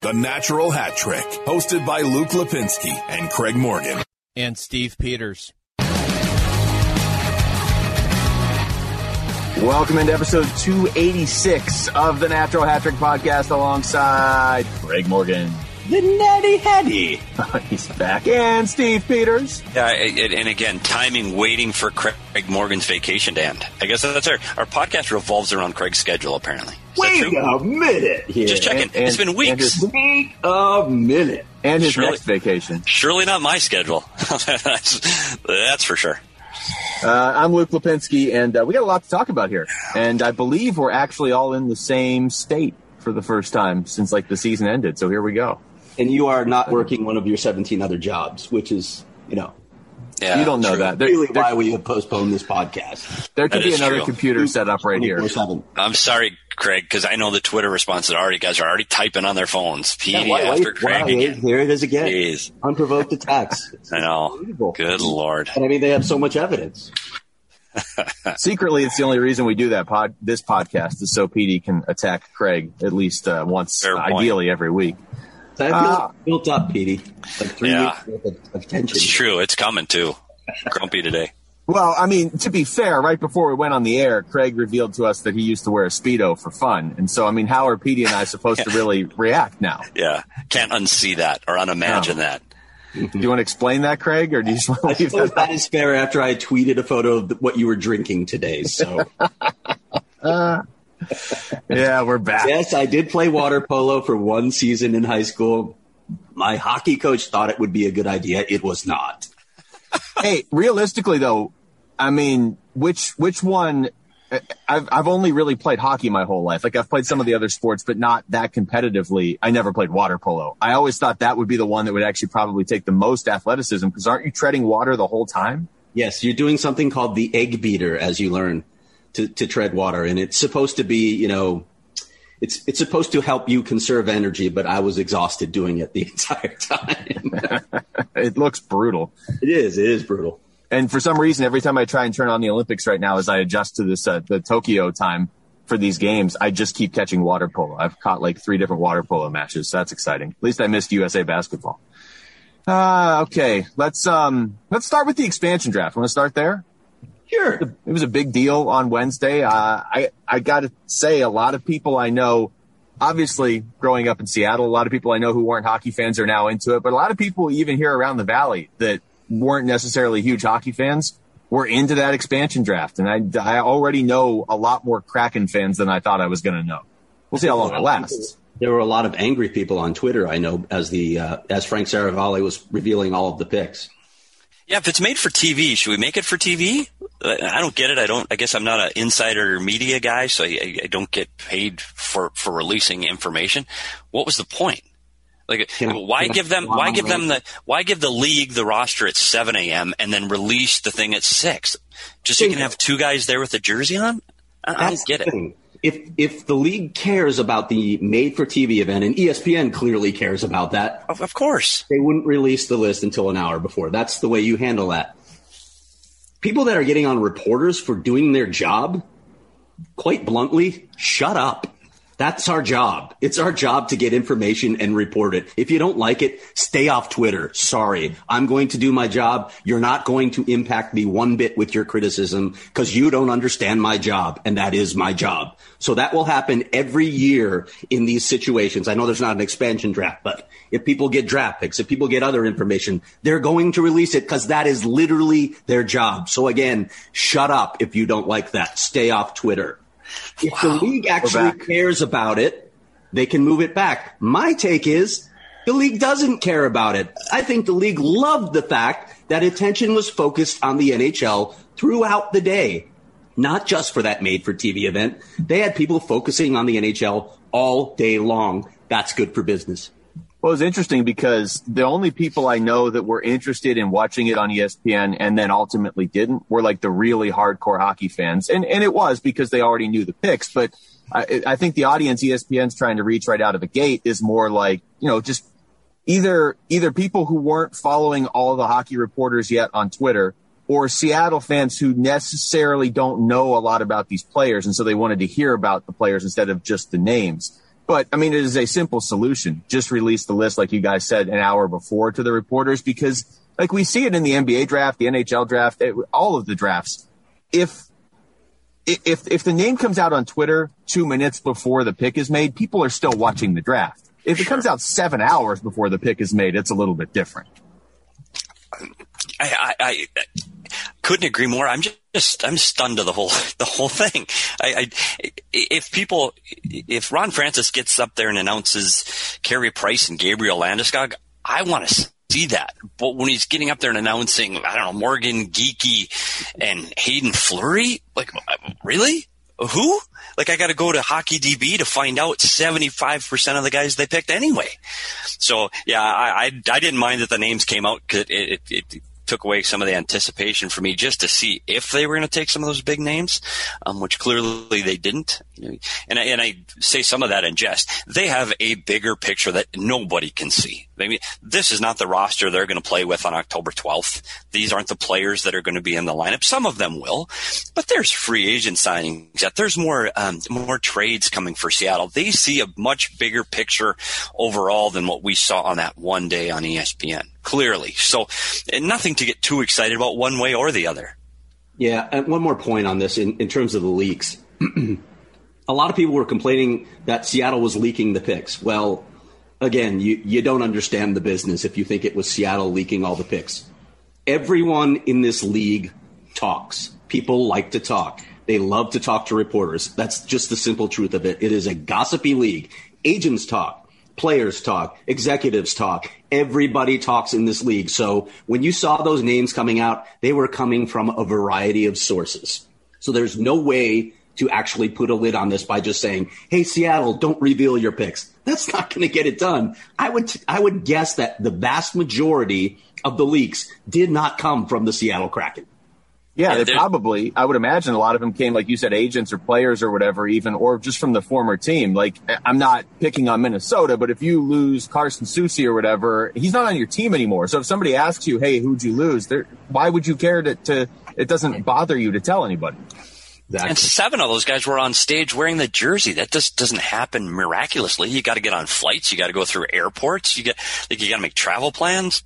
The Natural Hat Trick, hosted by Luke Lipinski and Craig Morgan. And Steve Peters. Welcome into episode 286 of the Natural Hat Trick podcast alongside Craig Morgan. The Natty Hattie. He's back. And Steve Peters. Yeah, and again, timing, waiting for Craig Morgan's vacation to end. I guess that's our podcast revolves around Craig's schedule, apparently. Wait a minute here. Just checking. It's been weeks. Wait a minute. And his next vacation. Surely not my schedule. That's for sure. I'm Luke Lipinski, and we got a lot to talk about here. And I believe we're actually all in the same state for the first time since the season ended. So here we go. And you are not working one of your 17 other jobs, which is, Yeah, you don't know true. that. Really why we have postponed this podcast. There could That be is another true. computer set up right here. 24/7. I'm sorry, Craig, because I know the Twitter responses guys are already typing on their phones. PD Yeah, after Craig again. Here it is again. Jeez. Unprovoked attacks. I know. Unbelievable. Good Lord. And I mean, they have so much evidence. Secretly, it's the only reason we do that this podcast is so PD can attack Craig at least once, Fair point. ideally every week. So I feel like it's built up, Petey. Like 3 Yeah. weeks worth of tension. It's true. It's coming, too. Grumpy today. Well, I mean, to be fair, right before we went on the air, Craig revealed to us that he used to wear a Speedo for fun. And so, I mean, how are PD and I supposed to really react now? Yeah. Can't unsee that or unimagine that. Do you want to explain that, Craig, or do you just want to I leave suppose that? that is fair after I tweeted a photo of what you were drinking today. So, Yeah, we're back. yes, I did play water polo for one season in high school. My hockey coach thought it would be a good idea. It was not. Hey, realistically, though, I mean, which one? I've only really played hockey my whole life. I've played some of the other sports, but not that competitively. I never played water polo. I always thought that would be the one that would actually probably take the most athleticism, because aren't you treading water the whole time? Yes, you're doing something called the egg beater as you learn to tread water. And it's supposed to be, it's supposed to help you conserve energy, but I was exhausted doing it the entire time. It looks brutal. It is brutal. And for some reason, every time I try and turn on the Olympics right now, as I adjust to this, the Tokyo time for these games, I just keep catching water polo. I've caught 3 different water polo matches. So that's exciting. At least I missed USA basketball. Okay. Let's start with the expansion draft. Want to start there? Sure. It was a big deal on Wednesday. I got to say, a lot of people I know, obviously growing up in Seattle, a lot of people I know who weren't hockey fans are now into it, but a lot of people even here around the Valley that weren't necessarily huge hockey fans were into that expansion draft. And I already know a lot more Kraken fans than I thought I was going to know. We'll see how long it lasts. There were a lot of angry people on Twitter, I know, as Frank Saravalli was revealing all of the picks. Yeah, if it's made for TV, should we make it for TV? I don't get it. I guess I'm not an insider media guy, so I don't get paid for releasing information. What was the point? Why give the league the roster at 7 a.m. and then release the thing at 6? Just so you can have 2 guys there with a jersey on? I don't get it. If the league cares about the made-for-TV event, and ESPN clearly cares about that, Of course. they wouldn't release the list until an hour before. That's the way you handle that. People that are getting on reporters for doing their job, quite bluntly, shut up. That's our job. It's our job to get information and report it. If you don't like it, stay off Twitter. Sorry. I'm going to do my job. You're not going to impact me one bit with your criticism because you don't understand my job, and that is my job. So that will happen every year in these situations. I know there's not an expansion draft, but if people get draft picks, if people get other information, they're going to release it because that is literally their job. So again, shut up if you don't like that. Stay off Twitter. If the league actually cares about it, they can move it back. My take is the league doesn't care about it. I think the league loved the fact that attention was focused on the NHL throughout the day, not just for that made-for-TV event. They had people focusing on the NHL all day long. That's good for business. Well, it's interesting because the only people I know that were interested in watching it on ESPN and then ultimately didn't were the really hardcore hockey fans. And it was because they already knew the picks. But I think the audience ESPN's trying to reach right out of the gate is more just either people who weren't following all the hockey reporters yet on Twitter, or Seattle fans who necessarily don't know a lot about these players. And so they wanted to hear about the players instead of just the names. But, I mean, it is a simple solution. Just release the list, like you guys said, an hour before to the reporters, because, like, we see it in the NBA draft, the NHL draft, all of the drafts. If the name comes out on Twitter 2 minutes before the pick is made, people are still watching the draft. If it comes out 7 hours before the pick is made, it's a little bit different. I couldn't agree more. I'm stunned to the whole thing. If Ron Francis gets up there and announces Carey Price and Gabriel Landeskog, I want to see that. But when he's getting up there and announcing, I don't know, Morgan Geekie and Hayden Fleury, like, really? Who? Like, I got to go to Hockey DB to find out 75% of the guys they picked anyway. So, yeah, I didn't mind that the names came out, because it took away some of the anticipation for me just to see if they were going to take some of those big names, which clearly they didn't. And I say some of that in jest. They have a bigger picture that nobody can see. I mean, this is not the roster they're going to play with on October 12th. These aren't the players that are going to be in the lineup. Some of them will, but there's free agent signings. There's more trades coming for Seattle. They see a much bigger picture overall than what we saw on that one day on ESPN. Clearly. So nothing to get too excited about one way or the other. Yeah, and one more point on this in terms of the leaks. A lot of people were complaining that Seattle was leaking the picks. Well, again, you don't understand the business if you think it was Seattle leaking all the picks. Everyone in this league talks. People like to talk. They love to talk to reporters. That's just the simple truth of it. It is a gossipy league. Agents talk. Players talk, executives talk, everybody talks in this league. So when you saw those names coming out, they were coming from a variety of sources. So there's no way to actually put a lid on this by just saying, hey, Seattle, don't reveal your picks. That's not going to get it done. I would guess that the vast majority of the leaks did not come from the Seattle Kraken. Yeah, they probably, I would imagine a lot of them came, like you said, agents or players or whatever, even, or just from the former team. Like, I'm not picking on Minnesota, but if you lose Carson Soucy or whatever, he's not on your team anymore. So if somebody asks you, hey, who'd you lose? Why would you care to it doesn't bother you to tell anybody? Exactly. And 7 of those guys were on stage wearing the jersey. That just doesn't happen miraculously. You got to get on flights. You got to go through airports. You got to make travel plans.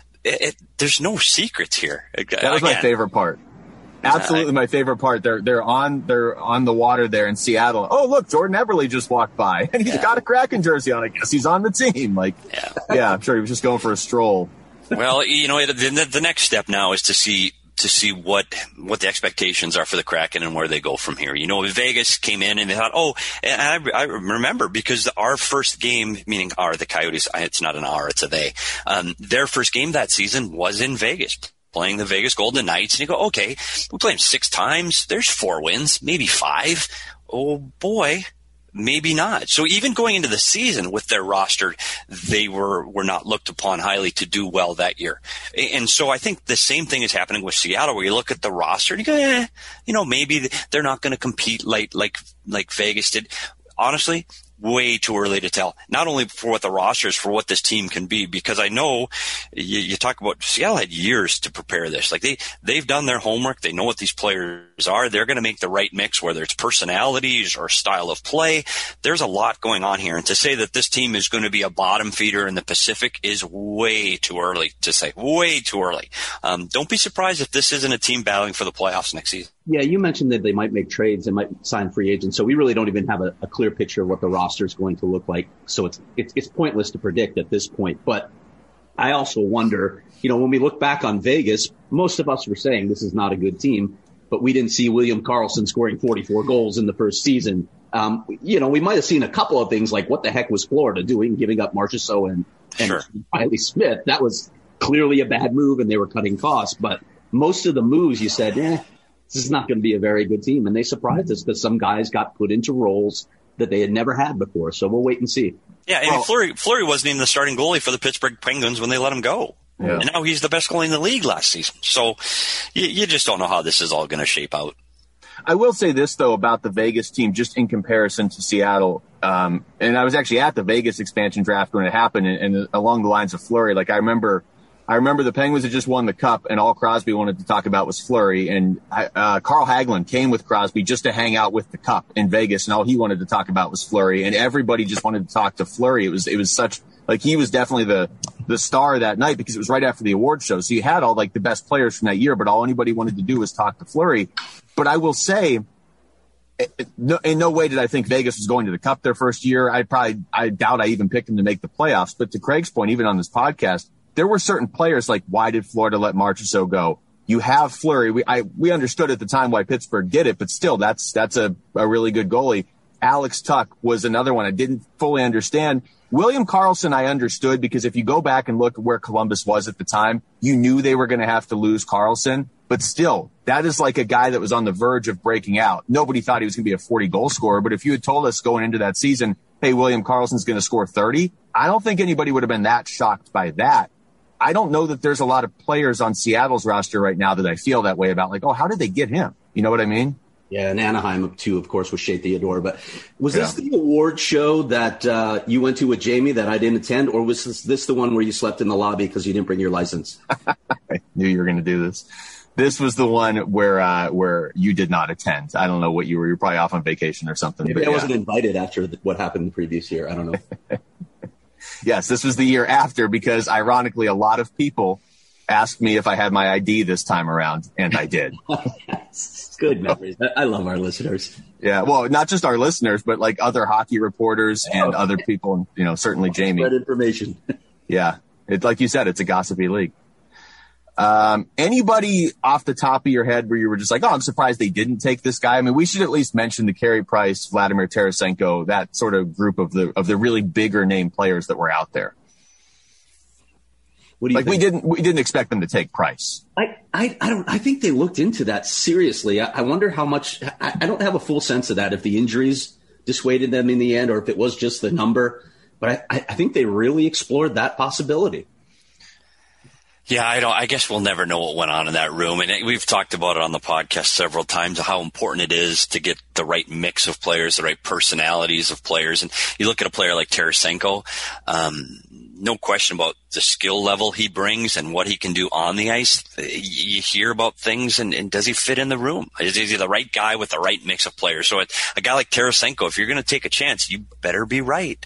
There's no secrets here. That was my favorite part. Absolutely, my favorite part. They're on the water there in Seattle. Oh, look, Jordan Eberle just walked by, and he's got a Kraken jersey on. I guess he's on the team. Like, yeah, I'm sure he was just going for a stroll. Well, the next step now is to see what the expectations are for the Kraken and where they go from here. Vegas came in and they thought, and I remember, because our first game, meaning the Coyotes, it's not an R, it's a they. Their first game that season was in Vegas, playing the Vegas Golden Knights, and you go, okay, we played them 6 times. There's 4 wins, maybe 5. Oh boy, maybe not. So even going into the season with their roster, they were not looked upon highly to do well that year. And so I think the same thing is happening with Seattle, where you look at the roster and you go, maybe they're not going to compete like Vegas did. Honestly, way too early to tell, not only for what the roster is, for what this team can be, because I know you talk about Seattle had years to prepare this. Like they've done their homework. They know what these players are. They're going to make the right mix, whether it's personalities or style of play. There's a lot going on here. And to say that this team is going to be a bottom feeder in the Pacific is way too early to say, way too early. Don't be surprised if this isn't a team battling for the playoffs next season. Yeah, you mentioned that they might make trades, they might sign free agents. So we really don't even have a clear picture of what the roster is going to look like. So it's pointless to predict at this point. But I also wonder, when we look back on Vegas, most of us were saying this is not a good team, but we didn't see William Karlsson scoring 44 goals in the first season. We might have seen a couple of things like what the heck was Florida doing, giving up Marchessault and Riley Smith. That was clearly a bad move, and they were cutting costs. But most of the moves, you said, this is not going to be a very good team. And they surprised us because some guys got put into roles that they had never had before. So we'll wait and see. Yeah, and Fleury wasn't even the starting goalie for the Pittsburgh Penguins when they let him go. Yeah. And now he's the best goalie in the league last season. So you just don't know how this is all going to shape out. I will say this, though, about the Vegas team, just in comparison to Seattle. And I was actually at the Vegas expansion draft when it happened, and along the lines of Fleury. Like, I remember I remember the Penguins had just won the Cup, and all Crosby wanted to talk about was Fleury. And Carl Hagelin came with Crosby just to hang out with the Cup in Vegas, and all he wanted to talk about was Fleury. And everybody just wanted to talk to Fleury. It was such like he was definitely the star that night because it was right after the award show. So you had all like the best players from that year, but all anybody wanted to do was talk to Fleury. But I will say, in no way did I think Vegas was going to the Cup their first year. I doubt I even picked them to make the playoffs. But to Craig's point, even on this podcast, there were certain players like, why did Florida let Marchessault go? You have Fleury. We understood at the time why Pittsburgh did it, but still, that's a really good goalie. Alex Tuck was another one I didn't fully understand. William Karlsson I understood because if you go back and look at where Columbus was at the time, you knew they were going to have to lose Karlsson. But still, that is like a guy that was on the verge of breaking out. Nobody thought he was going to be a 40-goal scorer, but if you had told us going into that season, hey, William Karlsson's going to score 30, I don't think anybody would have been that shocked by that. I don't know that there's a lot of players on Seattle's roster right now that I feel that way about, like, oh, how did they get him? You know what I mean? Yeah, and Anaheim, too, of course, was Shea Theodore. But was this the award show that you went to with Jamie that I didn't attend, or was this the one where you slept in the lobby because you didn't bring your license? I knew you were going to do this. This was the one where you did not attend. I don't know what you were. You're probably off on vacation or something. Maybe I wasn't invited after what happened the previous year. I don't know. Yes, this was the year after because, ironically, a lot of people asked me if I had my ID this time around, and I did. Yes. Good memories. I love our listeners. Yeah, well, not just our listeners, but like other hockey reporters and other people, and certainly Jamie. That information. Yeah, like you said, it's a gossipy league. Anybody off the top of your head where you were just like, oh, I'm surprised they didn't take this guy? I mean, we should at least mention the Carey Price, Vladimir Tarasenko, that sort of group of the really bigger name players that were out there. What do you think? We didn't expect them to take Price. I think they looked into that seriously. I wonder how much. I don't have a full sense of that, if the injuries dissuaded them in the end or if it was just the number. But I think they really explored that possibility. Yeah, I guess we'll never know what went on in that room. And we've talked about it on the podcast several times, how important it is to get the right mix of players, the right personalities of players. And you look at a player like Tarasenko, no question about the skill level he brings and what he can do on the ice. You hear about things, and does he fit in the room? Is he the right guy with the right mix of players? So a guy like Tarasenko, if you're going to take a chance, you better be right.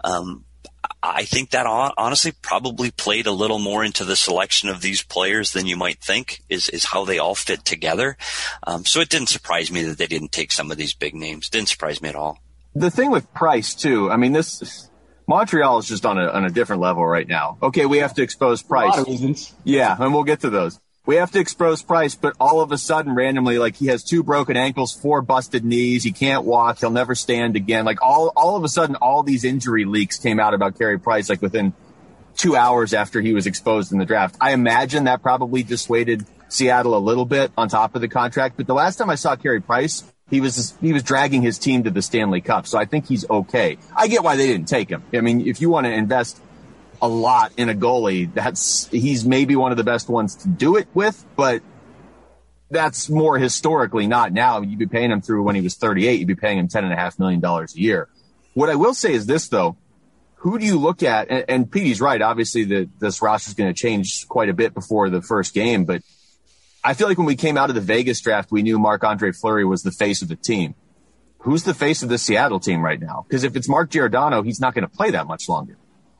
I think that honestly probably played a little more into the selection of these players than you might think is how they all fit together. So it didn't surprise me that they didn't take some of these big names. Didn't surprise me at all. The thing with Price too, I mean, Montreal is just on a different level right now. Okay, we have to expose Price. A lot of reasons. Yeah, and we'll get to those. We have to expose Price, but all of a sudden, randomly, like he has 2 broken ankles, 4 busted knees. He can't walk. He'll never stand again. Like all of a sudden, all these injury leaks came out about Carey Price, like within 2 hours after he was exposed in the draft. I imagine that probably dissuaded Seattle a little bit on top of the contract. But the last time I saw Carey Price, he was dragging his team to the Stanley Cup. So I think he's okay. I get why they didn't take him. I mean, if you want to invest a lot in a goalie, he's maybe one of the best ones to do it with, but that's more historically, not now. You'd be paying him through when he was 38. You'd be paying him $10.5 million a year. What I will say is this, though. Who do you look at? And Petey's right. Obviously, this roster is going to change quite a bit before the first game, but I feel like when we came out of the Vegas draft, we knew Marc-Andre Fleury was the face of the team. Who's the face of the Seattle team right now? Because if it's Mark Giordano, he's not going to play that much longer.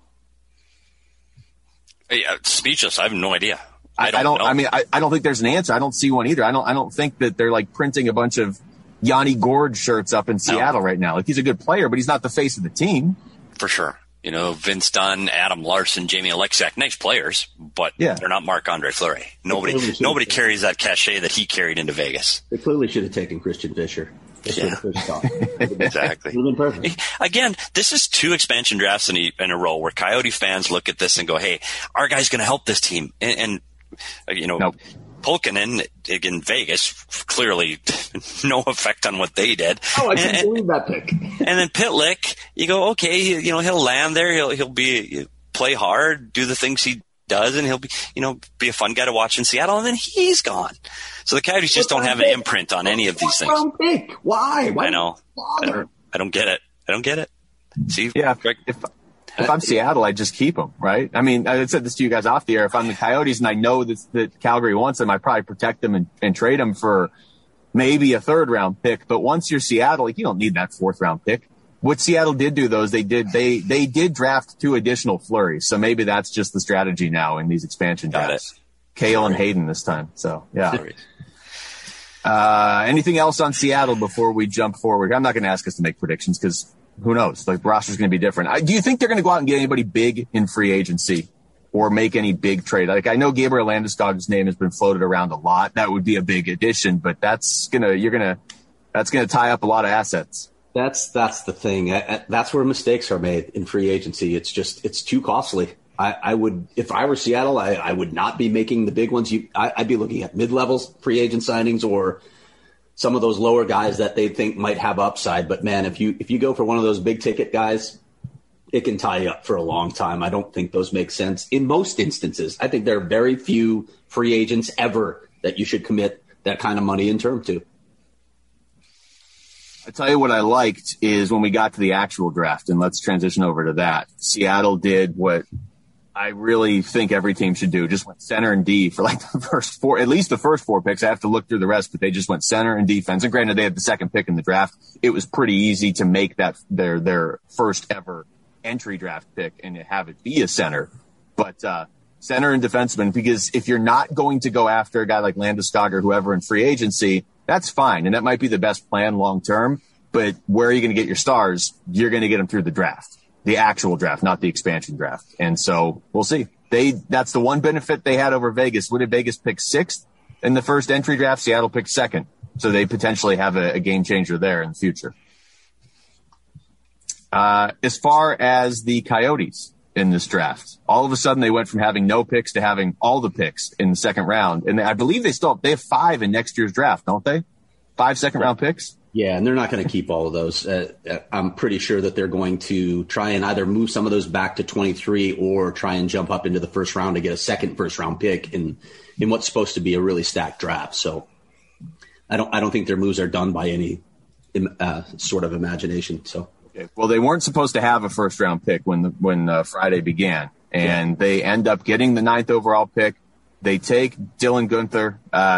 Speechless. I have no idea. I don't know. I mean, I don't think there's an answer. I don't see one either. I don't think that they're like printing a bunch of Yanni Gourde shirts up in Seattle right now. Like, he's a good player, but he's not the face of the team. For sure. Vince Dunn, Adam Larson, Jamie Alexak, nice players, but they're not Marc-Andre Fleury. Nobody carries that cachet that he carried into Vegas. They clearly should have taken Christian Fischer. Exactly. Again, this is 2 expansion drafts in a row where Coyote fans look at this and go, hey, our guy's going to help this team. And nope. Pulkkinen in Vegas, clearly no effect on what they did. Oh, I can't believe that pick. And then Pitlick, you go, okay, he'll land there. He'll play hard, do the things he does, and he'll be a fun guy to watch in Seattle. And then he's gone. So the Coyotes just don't have an imprint on any of these things. Why? I know. I don't get it. See, yeah. if I'm Seattle, I just keep them, right? I mean, I said this to you guys off the air. If I'm the Coyotes and I know that Calgary wants them, I probably protect them and trade them for maybe a third-round pick. But once you're Seattle, you don't need that fourth-round pick. What Seattle did do, though, is they did draft 2 additional flurries. So maybe that's just the strategy now in these expansion drafts. Kale and Hayden this time. So, yeah. Anything else on Seattle before we jump forward? I'm not going to ask us to make predictions because who knows? Like, the roster's going to be different. Do you think they're going to go out and get anybody big in free agency or make any big trade? Like, I know Gabriel Landeskog's name has been floated around a lot. That would be a big addition, but that's going to tie up a lot of assets. That's the thing. That's where mistakes are made in free agency. It's too costly. I would, if I were Seattle, I would not be making the big ones. I'd be looking at mid-level free agent signings or some of those lower guys that they think might have upside. But man, if you go for one of those big ticket guys, it can tie you up for a long time. I don't think those make sense in most instances. I think there are very few free agents ever that you should commit that kind of money in term to. I tell you what I liked is when we got to the actual draft, and let's transition over to that. Seattle did what I really think every team should do. Just went center and D for like the first 4, at least the first 4 picks. I have to look through the rest, but they just went center and defense. And granted, they had the second pick in the draft. It was pretty easy to make that their first ever entry draft pick and have it be a center. But center and defenseman, because if you're not going to go after a guy like Landeskog or whoever in free agency, that's fine. And that might be the best plan long term. But where are you going to get your stars? You're going to get them through the draft. The actual draft, not the expansion draft. And so we'll see. That's the one benefit they had over Vegas. What did Vegas pick 6th in the first entry draft? Seattle picked 2nd. So they potentially have a game changer there in the future. As far as the Coyotes in this draft, all of a sudden they went from having no picks to having all the picks in the second round. And I believe they have 5 in next year's draft, don't they? 5 second-round picks? Yeah, and they're not going to keep all of those. I'm pretty sure that they're going to try and either move some of those back to 23 or try and jump up into the first round to get a second first-round pick in what's supposed to be a really stacked draft. So I don't think their moves are done by any sort of imagination. So okay. Well, they weren't supposed to have a first-round pick when Friday began, and they end up getting the 9th overall pick. They take Dylan Guenther.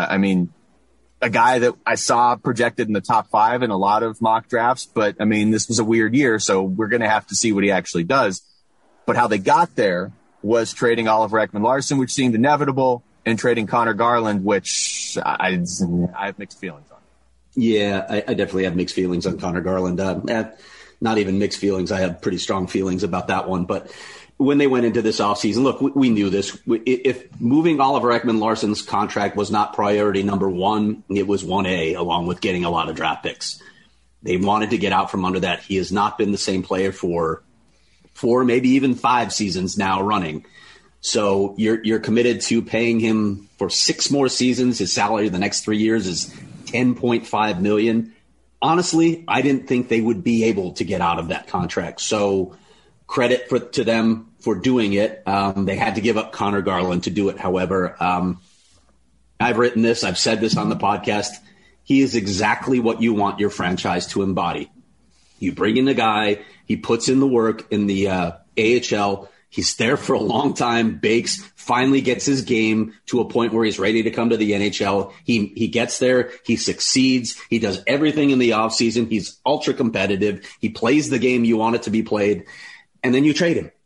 A guy that I saw projected in the top 5 in a lot of mock drafts, but this was a weird year, so we're going to have to see what he actually does. But how they got there was trading Oliver Ekman-Larsson, which seemed inevitable, and trading Connor Garland, which I have mixed feelings on. Yeah, I definitely have mixed feelings on Connor Garland. Not even mixed feelings. I have pretty strong feelings about that one, but when they went into this offseason, look, we knew this. If moving Oliver Ekman-Larsson's contract was not priority number 1, it was 1A, along with getting a lot of draft picks. They wanted to get out from under that. He has not been the same player for 4, maybe even 5 seasons now running. So you're committed to paying him for 6 more seasons. His salary the next 3 years is $10.5 million. Honestly, I didn't think they would be able to get out of that contract. So credit to them for doing it. They had to give up Connor Garland to do it. However, I've written this. I've said this on the podcast. He is exactly what you want your franchise to embody. You bring in the guy. He puts in the work in the AHL. He's there for a long time, bakes, finally gets his game to a point where he's ready to come to the NHL. He gets there. He succeeds. He does everything in the offseason. He's ultra competitive. He plays the game you want it to be played. And then you trade him.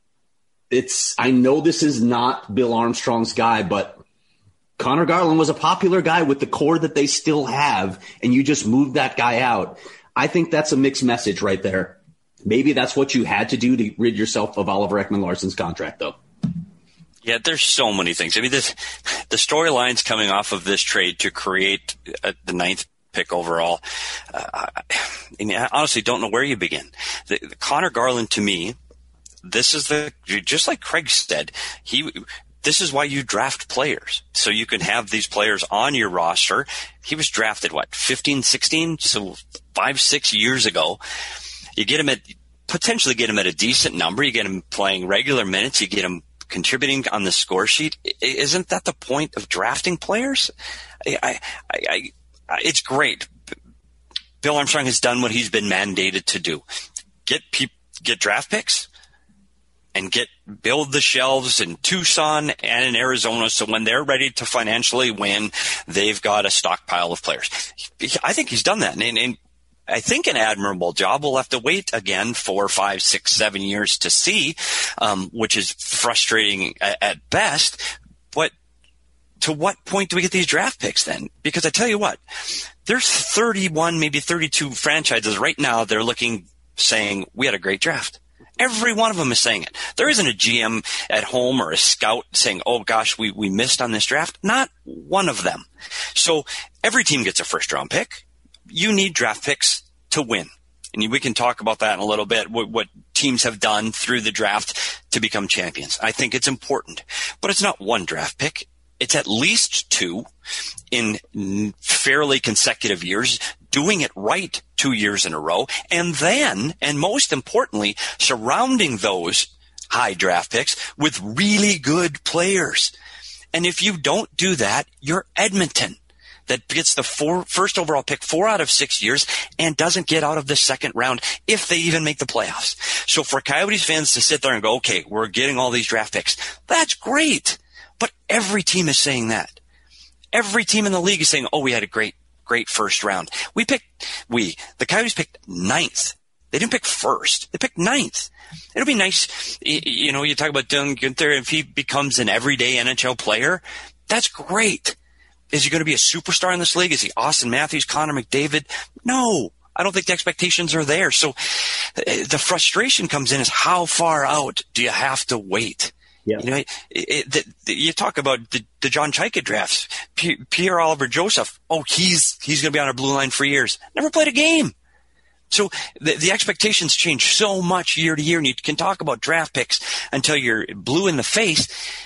I know this is not Bill Armstrong's guy, but Connor Garland was a popular guy with the core that they still have, and you just moved that guy out. I think that's a mixed message right there. Maybe that's what you had to do to rid yourself of Oliver Ekman-Larsson's contract, though. Yeah, there's so many things. The storylines coming off of this trade to create the 9th pick overall, I honestly don't know where you begin. The Connor Garland, to me, this is just like Craig said, this is why you draft players. So you can have these players on your roster. He was drafted, 15, 16? So 5-6 years ago. You potentially get him at a decent number. You get him playing regular minutes. You get him contributing on the score sheet. Isn't that the point of drafting players? It's great. Bill Armstrong has done what he's been mandated to do. Get draft picks. and build the shelves in Tucson and in Arizona, so when they're ready to financially win, they've got a stockpile of players. I think he's done that, and I think an admirable job. We'll have to wait again 4, 5, 6, 7 years to see, which is frustrating at best. But to what point do we get these draft picks then? Because I tell you what, there's 31, maybe 32 franchises right now. They're saying we had a great draft. Every one of them is saying it. There isn't a GM at home or a scout saying, oh gosh, we missed on this draft. Not one of them. So every team gets a first round pick. You need draft picks to win. And we can talk about that in a little bit, what teams have done through the draft to become champions. I think it's important. But it's not one draft pick. It's at least 2 in fairly consecutive years, doing it right 2 years in a row. And then, and most importantly, surrounding those high draft picks with really good players. And if you don't do that, you're Edmonton, that gets the first overall pick 4 out of 6 years and doesn't get out of the second round if they even make the playoffs. So for Coyotes fans to sit there and go, okay, we're getting all these draft picks, that's great. But every team is saying that. Every team in the league is saying, oh, we had a great first round. The Coyotes picked 9th. They didn't pick first. They picked 9th. It'll be nice, you talk about Dylan Guenther, if he becomes an everyday NHL player, that's great. Is he going to be a superstar in this league? Is he Austin Matthews, Connor McDavid? No, I don't think the expectations are there. So the frustration comes in is how far out do you have to wait? Yeah. You talk about the John Chayka drafts, Pierre-Olivier Joseph. Oh, he's going to be on our blue line for years. Never played a game. So the expectations change so much year to year, and you can talk about draft picks until you're blue in the face.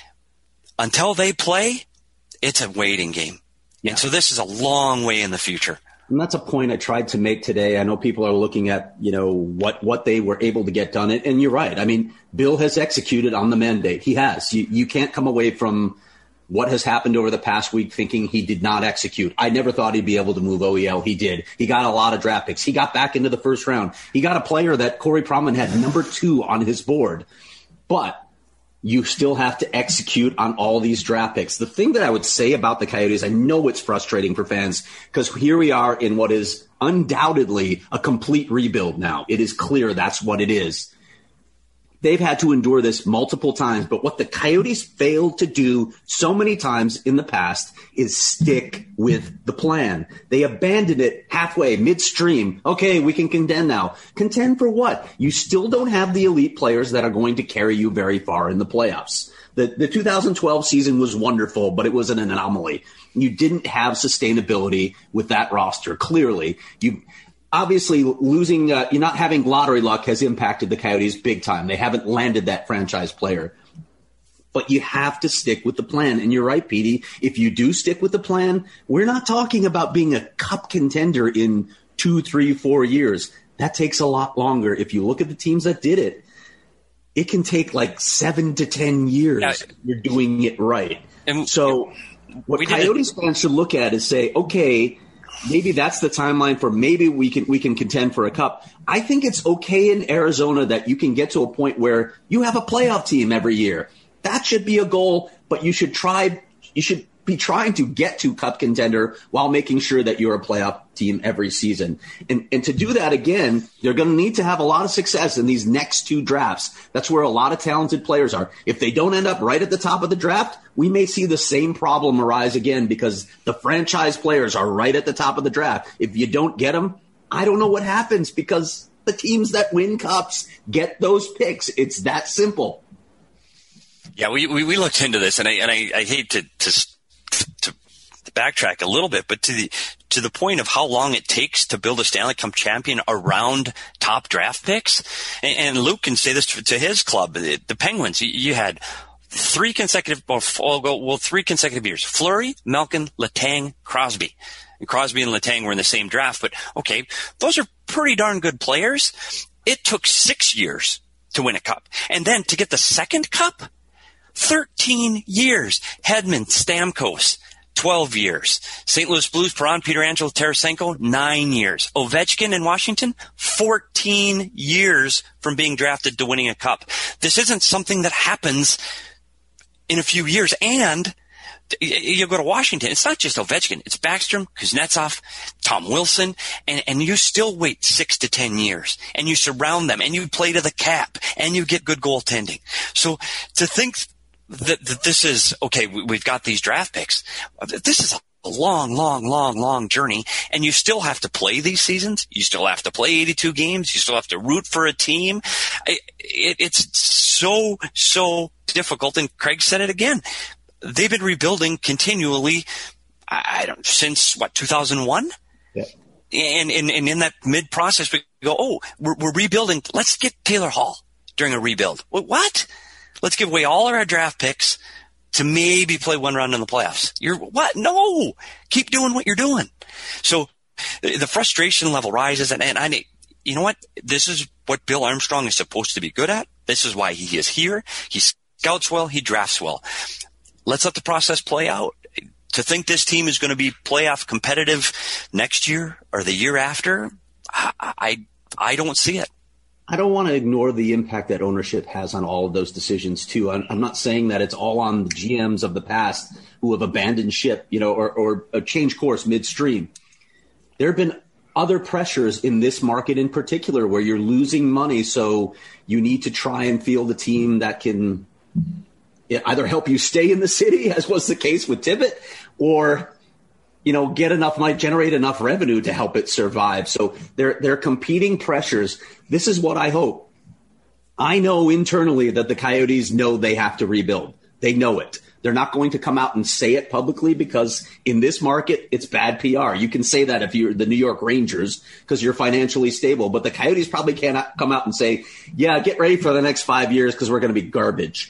Until they play, it's a waiting game. Yeah. And so this is a long way in the future. And that's a point I tried to make today. I know people are looking at, what they were able to get done. And you're right. I mean, Bill has executed on the mandate. He has. You can't come away from what has happened over the past week thinking he did not execute. I never thought he'd be able to move OEL. He did. He got a lot of draft picks. He got back into the first round. He got a player that Corey Pronman had number 2 on his board. But you still have to execute on all these draft picks. The thing that I would say about the Coyotes, I know it's frustrating for fans because here we are in what is undoubtedly a complete rebuild now. It is clear that's what it is. They've had to endure this multiple times, but what the Coyotes failed to do so many times in the past is stick with the plan. They abandoned it halfway, midstream. Okay, we can contend now. Contend for what? You still don't have the elite players that are going to carry you very far in the playoffs. The 2012 season was wonderful, but it was an anomaly. You didn't have sustainability with that roster, clearly. Obviously, losing, not having lottery luck has impacted the Coyotes big time. They haven't landed that franchise player. But you have to stick with the plan. And you're right, Petey. If you do stick with the plan, we're not talking about being a cup contender in 2, 3, 4 years. That takes a lot longer. If you look at the teams that did it, it can take like 7 to 10 years. Yeah. You're doing it right. And so what Coyotes fans should look at is say, okay, maybe that's the timeline for maybe we can contend for a cup. I think it's okay in Arizona that you can get to a point where you have a playoff team every year. That should be a goal, but you should be trying to get to cup contender while making sure that you're a playoff team every season. And to do that again, they're going to need to have a lot of success in these next 2 drafts. That's where a lot of talented players are. If they don't end up right at the top of the draft, we may see the same problem arise again because the franchise players are right at the top of the draft. If you don't get them, I don't know what happens because the teams that win cups get those picks. It's that simple. Yeah, we looked into this, and I hate to backtrack a little bit, but to the point of how long it takes to build a Stanley Cup champion around top draft picks, and Luke can say this to his club, the Penguins. You had 3 consecutive years: Fleury, Malkin, Letang, Crosby. And Crosby and Letang were in the same draft, but okay, those are pretty darn good players. It took 6 years to win a cup, and then to get the second cup. 13 years. Hedman, Stamkos, 12 years. St. Louis Blues, Perron, Pietrangelo, Tarasenko, 9 years. Ovechkin in Washington, 14 years from being drafted to winning a cup. This isn't something that happens in a few years. And you go to Washington, it's not just Ovechkin. It's Backstrom, Kuznetsov, Tom Wilson, and you still wait 6 to 10 years, and you surround them, and you play to the cap, and you get good goaltending. So to think that this is, okay, we've got these draft picks, this is a long journey, and you still have to play these seasons. You still have to play 82 games. You still have to root for a team. It's so difficult, and Craig said it again. They've been rebuilding continually, since 2001? Yeah. And in that mid-process, we go, we're rebuilding. Let's get Taylor Hall during a rebuild. What? Let's give away all of our draft picks to maybe play one round in the playoffs. What? No! Keep doing what you're doing. So the frustration level rises, and you know what? This is what Bill Armstrong is supposed to be good at. This is why he is here. He scouts well. He drafts well. Let's let the process play out. To think this team is going to be playoff competitive next year or the year after, I don't see it. I don't want to ignore the impact that ownership has on all of those decisions too. I'm not saying that it's all on the GMs of the past who have abandoned ship, or changed course midstream. There have been other pressures in this market in particular where you're losing money, so you need to try and field a team that can either help you stay in the city, as was the case with Tippett, or might generate enough revenue to help it survive. So they're competing pressures. This is what I hope. I know internally that the Coyotes know they have to rebuild. They know it. They're not going to come out and say it publicly because in this market, it's bad PR. You can say that if you're the New York Rangers because you're financially stable, but the Coyotes probably cannot come out and say, yeah, get ready for the next 5 years because we're going to be garbage.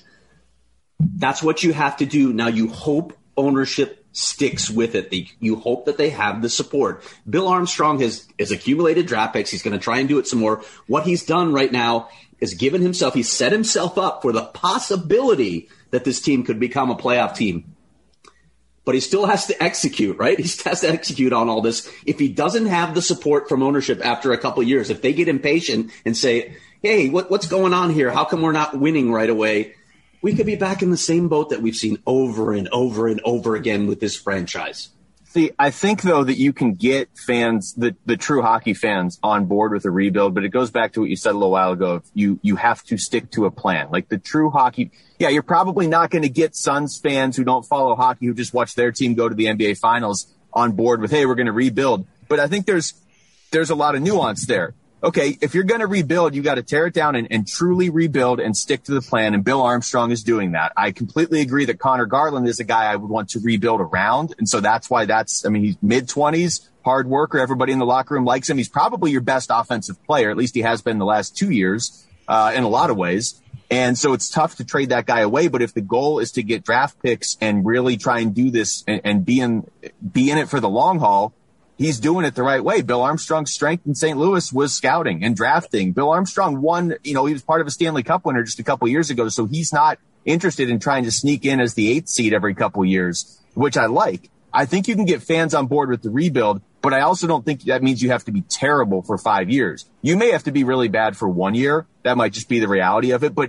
That's what you have to do. Now, you hope ownership sticks with it. You hope that they have the support. Bill Armstrong has accumulated draft picks. He's going to try and do it some more. What he's done right now is he's set himself up for the possibility that this team could become a playoff team. But he still has to execute, right? He has to execute on all this. If he doesn't have the support from ownership after a couple of years, if they get impatient and say, hey, what's going on here? How come we're not winning right away? We could be back in the same boat that we've seen over and over and over again with this franchise. See, I think, though, that you can get fans, the true hockey fans, on board with a rebuild, but it goes back to what you said a little while ago. You have to stick to a plan. Like the true hockey, yeah, you're probably not going to get Suns fans who don't follow hockey, who just watch their team go to the NBA Finals on board with, hey, we're going to rebuild. But I think there's a lot of nuance there. Okay, if you're going to rebuild, you got to tear it down and truly rebuild and stick to the plan. And Bill Armstrong is doing that. I completely agree that Connor Garland is a guy I would want to rebuild around. And so that's why he's mid-20s, hard worker. Everybody in the locker room likes him. He's probably your best offensive player. At least he has been the last 2 years in a lot of ways. And so it's tough to trade that guy away. But if the goal is to get draft picks and really try and do this and be in it for the long haul, he's doing it the right way. Bill Armstrong's strength in St. Louis was scouting and drafting. Bill Armstrong won, he was part of a Stanley Cup winner just a couple years ago. So he's not interested in trying to sneak in as the 8th seed every couple years, which I like. I think you can get fans on board with the rebuild, but I also don't think that means you have to be terrible for 5 years. You may have to be really bad for 1 year. That might just be the reality of it. But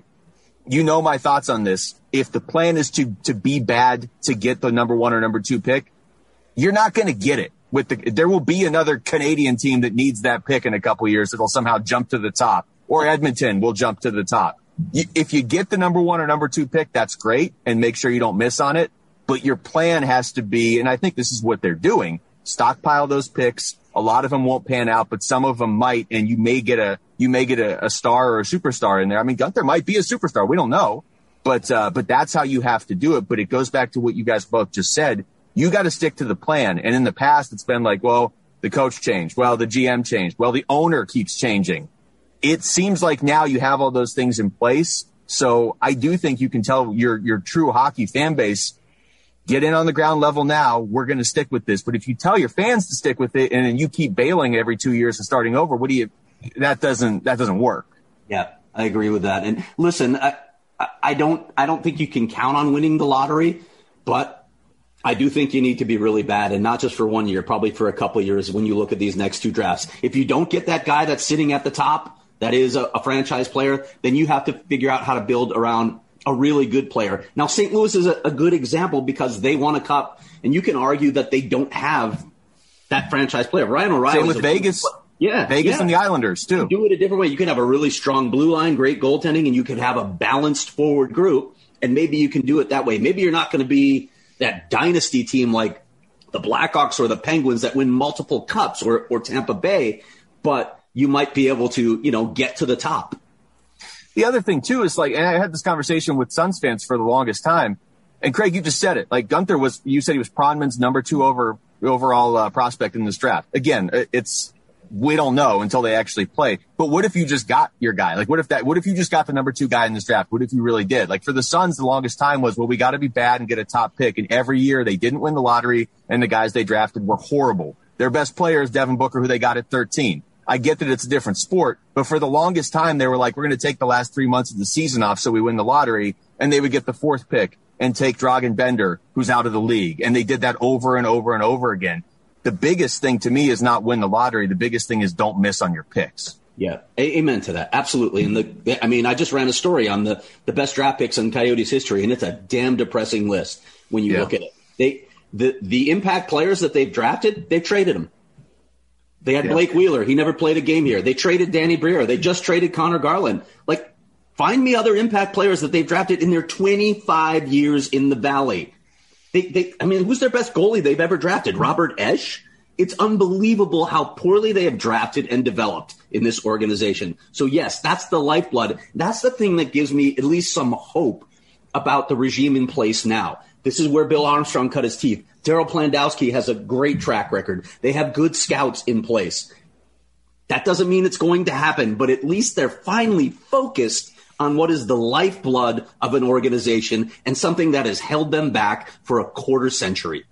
my thoughts on this. If the plan is to be bad to get the number 1 or number 2 pick, you're not going to get it. There will be another Canadian team that needs that pick in a couple of years that'll somehow jump to the top, or Edmonton will jump to the top. If you get the number 1 or number 2 pick, that's great, and make sure you don't miss on it. But your plan has to be, and I think this is what they're doing, stockpile those picks. A lot of them won't pan out, but some of them might, and you may get a star or a superstar in there. I mean, Gunther might be a superstar. We don't know, but that's how you have to do it. But it goes back to what you guys both just said. You got to stick to the plan. And in the past, it's been like, well, the coach changed. Well, the GM changed. Well, the owner keeps changing. It seems like now you have all those things in place. So I do think you can tell your true hockey fan base, get in on the ground level now. We're going to stick with this. But if you tell your fans to stick with it and then you keep bailing every 2 years and starting over, that doesn't work. Yeah, I agree with that. And listen, I don't think you can count on winning the lottery, but I do think you need to be really bad, and not just for 1 year, probably for a couple of years when you look at these next two drafts. If you don't get that guy that's sitting at the top, that is a franchise player, then you have to figure out how to build around a really good player. Now, St. Louis is a good example because they won a cup, and you can argue that they don't have that franchise player. Ryan O'Reilly. Same with Vegas. Vegas and the Islanders, too. You do it a different way. You can have a really strong blue line, great goaltending, and you can have a balanced forward group, and maybe you can do it that way. Maybe you're not going to be that dynasty team like the Blackhawks or the Penguins that win multiple cups or Tampa Bay, but you might be able to, get to the top. The other thing, too, is and I had this conversation with Suns fans for the longest time. And Craig, you just said it. Gunther you said he was Pronman's number 2 overall prospect in this draft. Again, we don't know until they actually play. But what if you just got your guy? What if you just got the number 2 guy in this draft? What if you really did? For the Suns, the longest time was, well, we got to be bad and get a top pick. And every year they didn't win the lottery, and the guys they drafted were horrible. Their best player is Devin Booker, who they got at 13. I get that it's a different sport, but for the longest time, they were like, we're going to take the last 3 months of the season off so we win the lottery, and they would get the 4th pick and take Dragan Bender, who's out of the league. And they did that over and over and over again. The biggest thing to me is not win the lottery. The biggest thing is don't miss on your picks. Yeah, amen to that. Absolutely. And I just ran a story on the best draft picks in Coyotes history, and it's a damn depressing list when you look at it. The impact players that they've drafted, they've traded them. They had Blake Wheeler. He never played a game here. They traded Danny Briere. They just traded Connor Garland. Find me other impact players that they've drafted in their 25 years in the Valley. Who's their best goalie they've ever drafted? Robert Esch? It's unbelievable how poorly they have drafted and developed in this organization. So, yes, that's the lifeblood. That's the thing that gives me at least some hope about the regime in place now. This is where Bill Armstrong cut his teeth. Daryl Plandowski has a great track record. They have good scouts in place. That doesn't mean it's going to happen, but at least they're finally focused on what is the lifeblood of an organization and something that has held them back for a quarter century.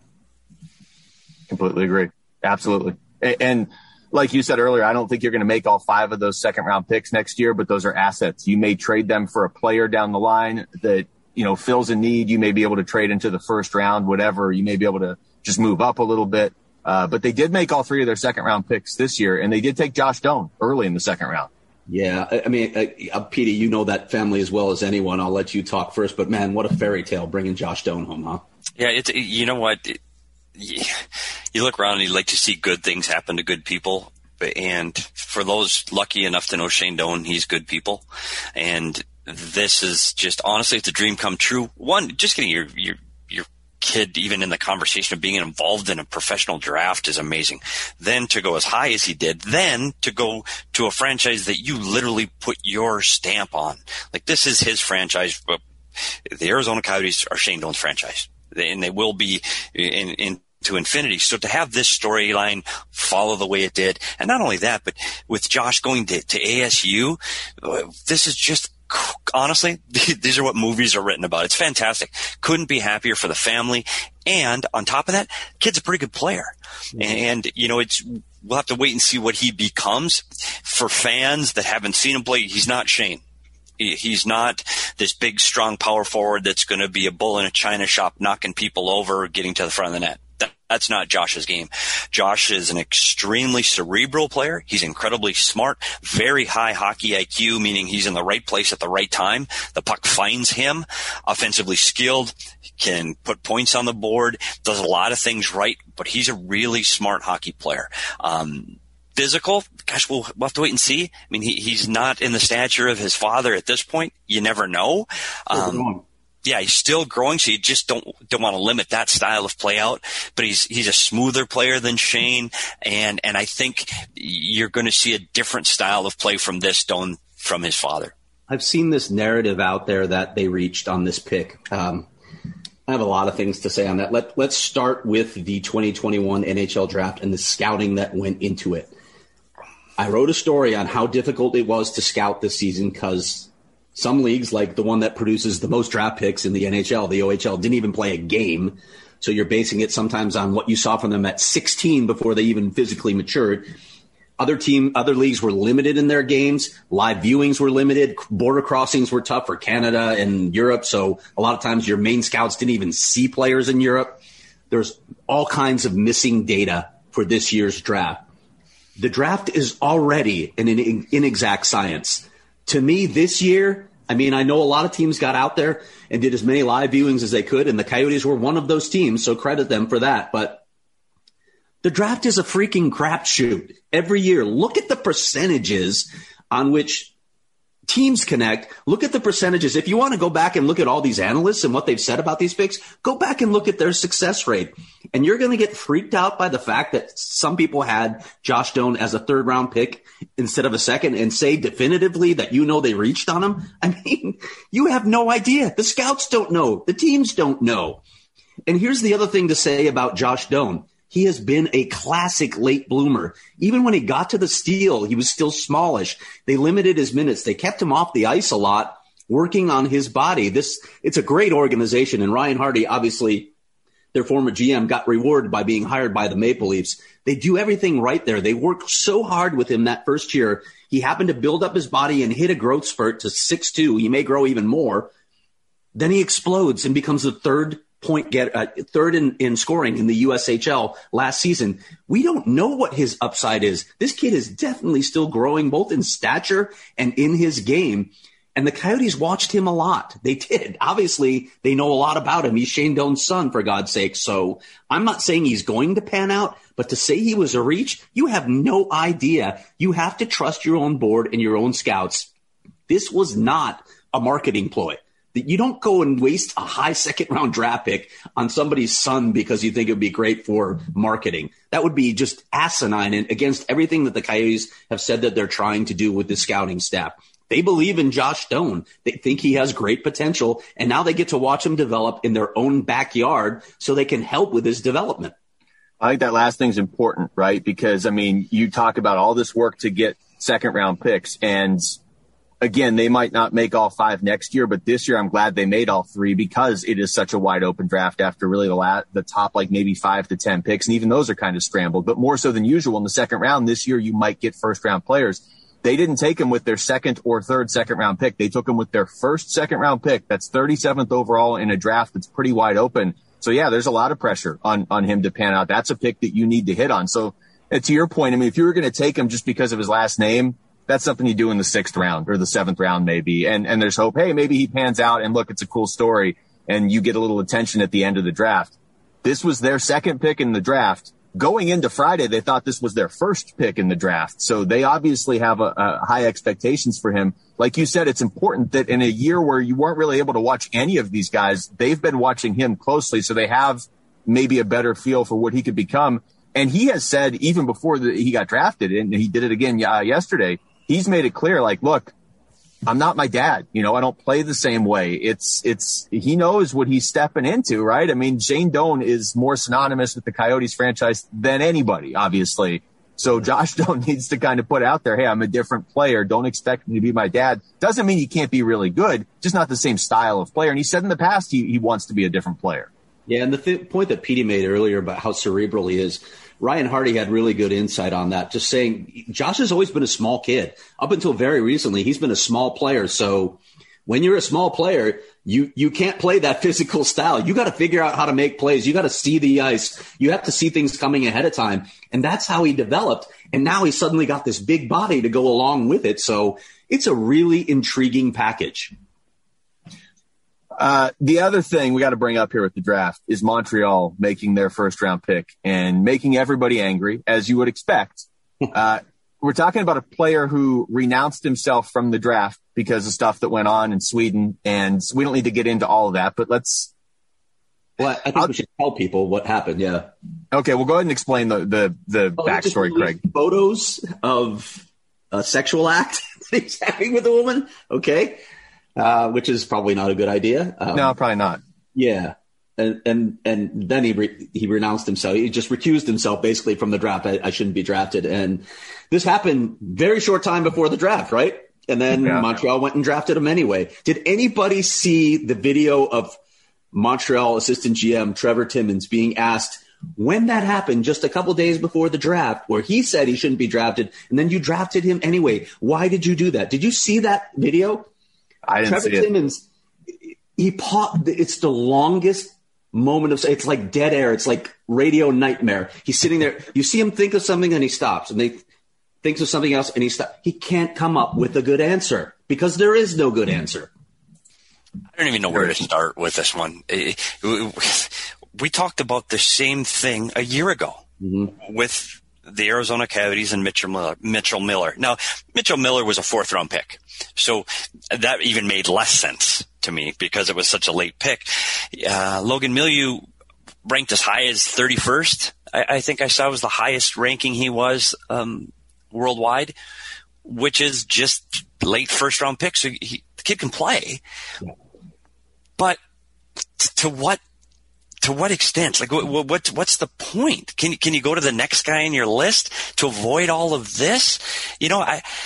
Completely agree. Absolutely. And like you said earlier, I don't think you're going to make all 5 of those second-round picks next year, but those are assets. You may trade them for a player down the line that fills a need. You may be able to trade into the first round, whatever. You may be able to just move up a little bit. But they did make all 3 of their second-round picks this year, and they did take Josh Doan early in the second round. Yeah, Petey, you know that family as well as anyone. I'll let you talk first. But, man, what a fairy tale bringing Josh Doan home, huh? Yeah, you know what? You look around and you like to see good things happen to good people. And for those lucky enough to know Shane Doan, he's good people. And this is just, honestly, it's a dream come true. One, just getting your kid even in the conversation of being involved in a professional draft is amazing. Then to go as high as he did, then to go to a franchise that you literally put your stamp on. This is his franchise. The Arizona Coyotes are Shane Doan's franchise, and they will be to infinity. So to have this storyline follow the way it did, and not only that, but with Josh going to ASU, this is just, honestly, these are what movies are written about. It's fantastic. Couldn't be happier for the family. And on top of that, kid's a pretty good player. Mm-hmm. And, we'll have to wait and see what he becomes. For fans that haven't seen him play, he's not Shane. He's not this big, strong power forward that's going to be a bull in a china shop, knocking people over, getting to the front of the net. That's not Josh's game. Josh is an extremely cerebral player. He's incredibly smart, very high hockey IQ, meaning he's in the right place at the right time. The puck finds him, offensively skilled, can put points on the board, does a lot of things right, but he's a really smart hockey player. Physical, gosh, we'll have to wait and see. I mean, he's not in the stature of his father at this point. You never know. Yeah, he's still growing, so you just don't want to limit that style of play out. But he's a smoother player than Shane, and I think you're going to see a different style of play from this Doan from his father. I've seen this narrative out there that they reached on this pick. I have a lot of things to say on that. Let's start with the 2021 NHL draft and the scouting that went into it. I wrote a story on how difficult it was to scout this season because some leagues, like the one that produces the most draft picks in the NHL, the OHL, didn't even play a game. So you're basing it sometimes on what you saw from them at 16 before they even physically matured. Other leagues were limited in their games. Live viewings were limited. Border crossings were tough for Canada and Europe. So a lot of times your main scouts didn't even see players in Europe. there's all kinds of missing data for this year's draft. The draft is already an inexact science. To me, this year, I mean, I know a lot of teams got out there and did as many live viewings as they could, and the Coyotes were one of those teams, so credit them for that. But the draft is a freaking crapshoot every year. Look at the percentages on which teams connect. Look at the percentages. If you want to go back and look at all these analysts and what they've said about these picks, go back and look at their success rate. And you're going to get freaked out by the fact that some people had Josh Doan as a third-round pick instead of a second and say definitively that they reached on him. I mean, you have no idea. The scouts don't know. The teams don't know. And here's the other thing to say about Josh Doan. He has been a classic late bloomer. Even when he got to the Steel, he was still smallish. They limited his minutes. They kept him off the ice a lot, working on his body. It's a great organization. And Ryan Hardy, obviously, their former GM, got rewarded by being hired by the Maple Leafs. They do everything right there. They worked so hard with him that first year. He happened to build up his body and hit a growth spurt to 6'2". He may grow even more. Then he explodes and becomes the third in scoring in the USHL last season. We don't know what his upside is. This kid is definitely still growing both in stature and in his game. And the Coyotes watched him a lot. They did. Obviously, they know a lot about him. He's Shane Doan's son, for God's sake. So I'm not saying he's going to pan out, but to say he was a reach, you have no idea. You have to trust your own board and your own scouts. This was not a marketing ploy. You don't go and waste a high second-round draft pick on somebody's son because you think it would be great for marketing. That would be just asinine and against everything that the Coyotes have said that they're trying to do with the scouting staff. They believe in Josh Doan. They think he has great potential, and now they get to watch him develop in their own backyard so they can help with his development. I think that last thing's important, right? Because, I mean, you talk about all this work to get second-round picks, and again, they might not make all 5 next year, but this year I'm glad they made all 3 because it is such a wide open draft after really the top, like maybe 5 to 10 picks. And even those are kind of scrambled, but more so than usual in the second round this year, you might get first round players. They didn't take them with their second or third second round pick. They took them with their first second round pick. That's 37th overall in a draft that's pretty wide open. So yeah, there's a lot of pressure on him to pan out. That's a pick that you need to hit on. So to your point, I mean, if you were going to take him just because of his last name, that's something you do in the 6th round or the 7th round maybe. And there's hope, hey, maybe he pans out and look, it's a cool story and you get a little attention at the end of the draft. This was their second pick in the draft. Going into Friday, they thought this was their first pick in the draft. So they obviously have a high expectations for him. Like you said, it's important that in a year where you weren't really able to watch any of these guys, they've been watching him closely. So they have maybe a better feel for what he could become. And he has said even before he got drafted, and he did it again yesterday, he's made it clear, like, look, I'm not my dad. I don't play the same way. He knows what he's stepping into, right? I mean, Shane Doan is more synonymous with the Coyotes franchise than anybody, obviously. So Josh Doan needs to kind of put out there, hey, I'm a different player. Don't expect me to be my dad. Doesn't mean he can't be really good, just not the same style of player. And he said in the past he wants to be a different player. Yeah, and the point that Petey made earlier about how cerebral he is, Ryan Hardy had really good insight on that, just saying Josh has always been a small kid. Up until very recently, he's been a small player. So when you're a small player, you can't play that physical style. You got to figure out how to make plays. You got to see the ice. You have to see things coming ahead of time. And that's how he developed. And now he's suddenly got this big body to go along with it. So it's a really intriguing package. The other thing we got to bring up here with the draft is Montreal making their first round pick and making everybody angry, as you would expect. We're talking about a player who renounced himself from the draft because of stuff that went on in Sweden, and we don't need to get into all of that, but let's. Well, I think we should tell people what happened. Yeah. Okay, we'll go ahead and explain the backstory, Craig. Photos of a sexual act that he's having with a woman. Okay. Which is probably not a good idea. No, probably not. Yeah. And then he renounced himself. He just recused himself basically from the draft. I shouldn't be drafted. And this happened very short time before the draft, right? And then Montreal went and drafted him anyway. Did anybody see the video of Montreal assistant GM Trevor Timmins being asked when that happened just a couple days before the draft, where he said he shouldn't be drafted, and then you drafted him anyway? Why did you do that? Did you see that video? I didn't see it. Trevor Timmins, it's the longest moment of, it's like dead air. It's like radio nightmare. He's sitting there. You see him think of something and he stops, and they thinks of something else and he stops. He can't come up with a good answer because there is no good answer. I don't even know where to start with this one. We talked about the same thing a year ago with the Arizona Coyotes and Mitchell Miller. Now, Mitchell Miller was a 4th-round pick, so that even made less sense to me because it was such a late pick. Logan Milieu ranked as high as 31st. I think I saw was the highest ranking he was worldwide, which is just late 1st-round pick. So the kid can play, but to what extent? Like, what's the point? Can you go to the next guy in your list to avoid all of this? You know,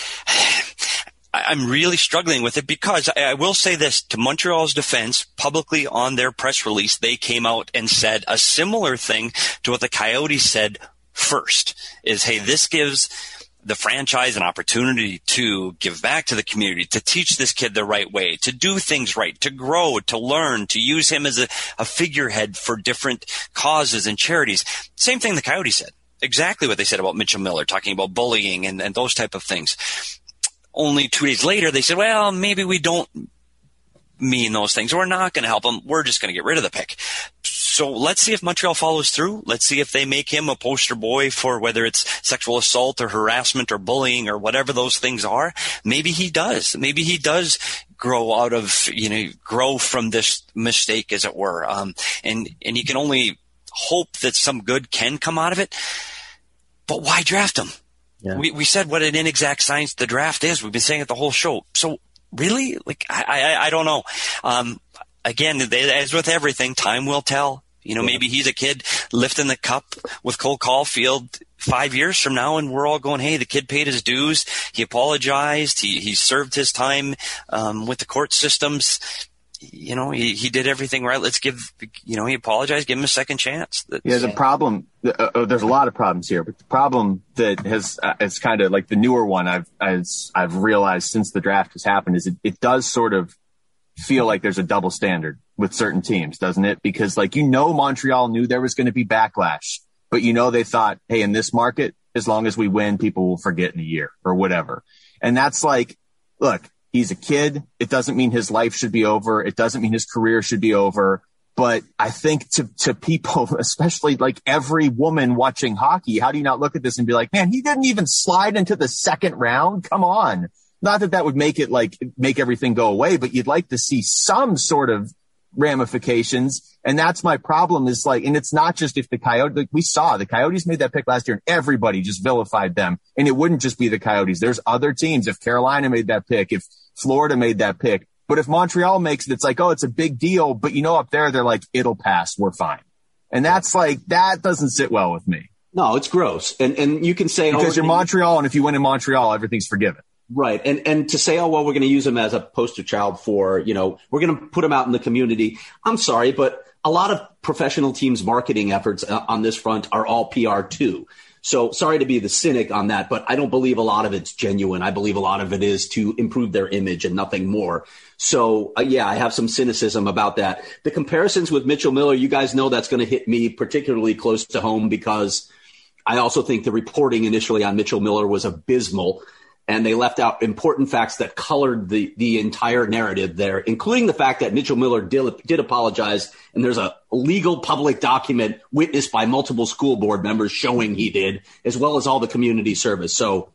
I'm really struggling with it because I will say this to Montreal's defense. Publicly on their press release, they came out and said a similar thing to what the Coyotes said first. Is, hey, this gives the franchise an opportunity to give back to the community, to teach this kid the right way, to do things right, to grow, to learn, to use him as a figurehead for different causes and charities. Same thing the Coyotes said. Exactly what they said about Mitchell Miller, talking about bullying and those type of things. Only 2 days later, they said, well, maybe we don't mean those things. We're not going to help him. We're just going to get rid of the pick. So let's see if Montreal follows through. Let's see if they make him a poster boy for whether it's sexual assault or harassment or bullying or whatever those things are. Maybe he does. Maybe he does grow out of, grow from this mistake, as it were. And you can only hope that some good can come out of it. But why draft him? Yeah. We said what an inexact science the draft is. We've been saying it the whole show. So really, I don't know. Again, as with everything, time will tell. Maybe he's a kid lifting the cup with Cole Caulfield 5 years from now, and we're all going, hey, the kid paid his dues. He apologized. He served his time with the court systems. He did everything right. Let's give, he apologized, give him a second chance. The problem, there's a lot of problems here, but the problem that it's kind of like the newer one I've realized since the draft has happened is it does sort of feel like there's a double standard with certain teams, doesn't it? Because Montreal knew there was going to be backlash, but they thought, hey, in this market, as long as we win, people will forget in a year or whatever. And that's like, look, he's a kid. It doesn't mean his life should be over. It doesn't mean his career should be over. But I think to people, especially like every woman watching hockey, how do you not look at this and be like, man, he didn't even slide into the 2nd round? Come on. Not that would make everything go away, but you'd like to see some sort of ramifications. And that's my problem is and it's not just if the Coyotes, we saw the Coyotes made that pick last year and everybody just vilified them. And it wouldn't just be the Coyotes. There's other teams. If Carolina made that pick, if Florida made that pick, but if Montreal makes it, it's like, oh, it's a big deal. But up there, they're like, it'll pass. We're fine. And that's that doesn't sit well with me. No, it's gross. And you can say, because you're Montreal. And if you win in Montreal, everything's forgiven. Right. And to say, oh, well, we're going to use him as a poster child for, we're going to put him out in the community. I'm sorry, but a lot of professional teams' marketing efforts on this front are all PR too. So sorry to be the cynic on that, but I don't believe a lot of it's genuine. I believe a lot of it is to improve their image and nothing more. So, I have some cynicism about that. The comparisons with Mitchell Miller, you guys know that's going to hit me particularly close to home because I also think the reporting initially on Mitchell Miller was abysmal. And they left out important facts that colored the entire narrative there, including the fact that Mitchell Miller did apologize. And there's a legal public document witnessed by multiple school board members showing he did, as well as all the community service. So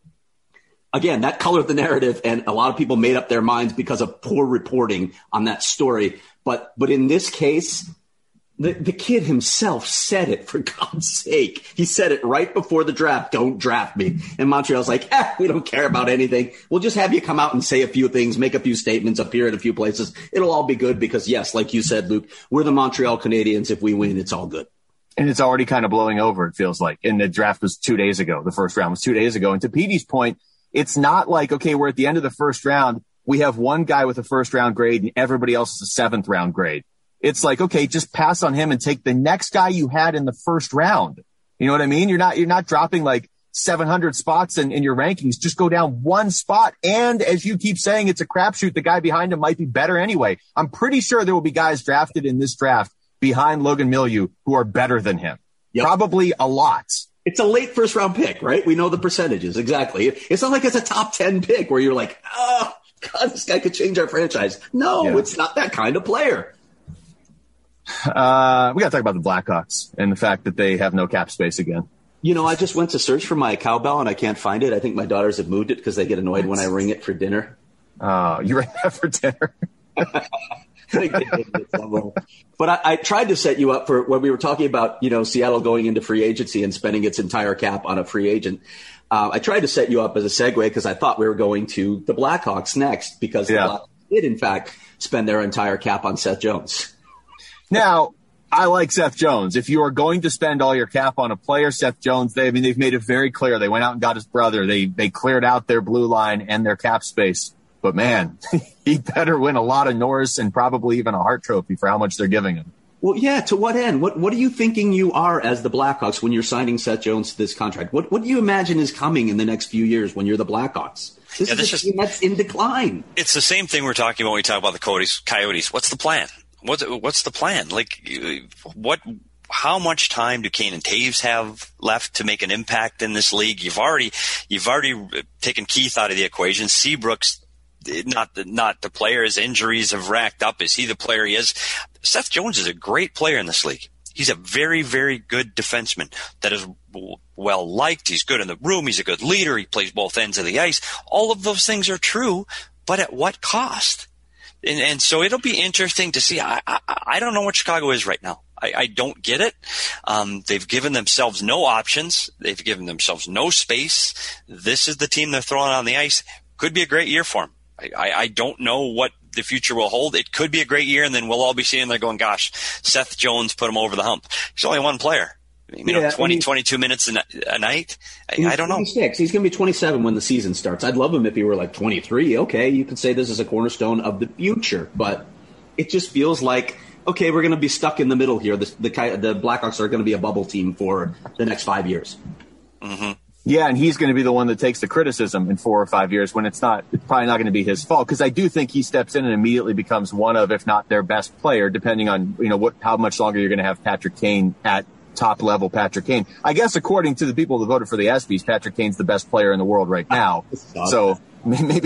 again, that colored the narrative, and a lot of people made up their minds because of poor reporting on that story. But in this case, the kid himself said it, for God's sake. He said it right before the draft, don't draft me. And Montreal's like, we don't care about anything. We'll just have you come out and say a few things, make a few statements, appear at a few places. It'll all be good because, yes, like you said, Luke, we're the Montreal Canadiens. If we win, it's all good. And it's already kind of blowing over, it feels like. And the draft was 2 days ago. The first round was 2 days ago. And to Petey's point, it's not like, okay, we're at the end of the first round. We have one guy with a first round grade and everybody else is a 7th round grade. It's like, okay, just pass on him and take the next guy you had in the first round. You know what I mean? You're not dropping like 700 spots in your rankings. Just go down one spot. And as you keep saying, it's a crapshoot. The guy behind him might be better anyway. I'm pretty sure there will be guys drafted in this draft behind Logan Milieu who are better than him. Yep. Probably a lot. It's a late first-round pick, right? We know the percentages, exactly. It's not like it's a top 10 pick where you're like, oh, God, this guy could change our franchise. No, It's not that kind of player. We got to talk about the Blackhawks and the fact that they have no cap space again. You know, I just went to search for my cowbell and I can't find it. I think my daughters have moved it because they get annoyed when I ring it for dinner. You ring that for dinner? But I tried to set you up for when we were talking about, Seattle going into free agency and spending its entire cap on a free agent. I tried to set you up as a segue because I thought we were going to the Blackhawks next because the Blackhawks did, in fact, spend their entire cap on Seth Jones. Now, I like Seth Jones. If you are going to spend all your cap on a player, Seth Jones, they've made it very clear. They went out and got his brother. They cleared out their blue line and their cap space. But, man, he better win a lot of Norris and probably even a Hart Trophy for how much they're giving him. Well, yeah, to what end? What are you thinking you are as the Blackhawks when you're signing Seth Jones to this contract? What do you imagine is coming in the next few years when you're the Blackhawks? This is a team that's in decline. It's the same thing we're talking about when we talk about the Coyotes. What's the plan? What's the plan? How much time do Kane and Taves have left to make an impact in this league? You've already taken Keith out of the equation. Seabrook's not the player. His injuries have racked up. Is he the player he is? Seth Jones is a great player in this league. He's a very, very good defenseman that is well liked. He's good in the room. He's a good leader. He plays both ends of the ice. All of those things are true, but at what cost? And so it'll be interesting to see. I don't know what Chicago is right now. I don't get it. They've given themselves no options. They've given themselves no space. This is the team they're throwing on the ice. Could be a great year for them. I don't know what the future will hold. It could be a great year, and then we'll all be sitting there going, gosh, Seth Jones put him over the hump. He's only one player. 22 minutes a night. I don't know. 26. He's going to be 27 when the season starts. I'd love him if he were like 23. Okay, you can say this is a cornerstone of the future, but it just feels like, okay, we're going to be stuck in the middle here. The Blackhawks are going to be a bubble team for the next 5 years. Mm-hmm. Yeah, and he's going to be the one that takes the criticism in 4 or 5 years when it's probably not going to be his fault. Because I do think he steps in and immediately becomes one of, if not their best player, depending on how much longer you're going to have Patrick Kane at top level. Patrick Kane, I guess, according to the people that voted for the ESPYs, Patrick Kane's the best player in the world right now. So maybe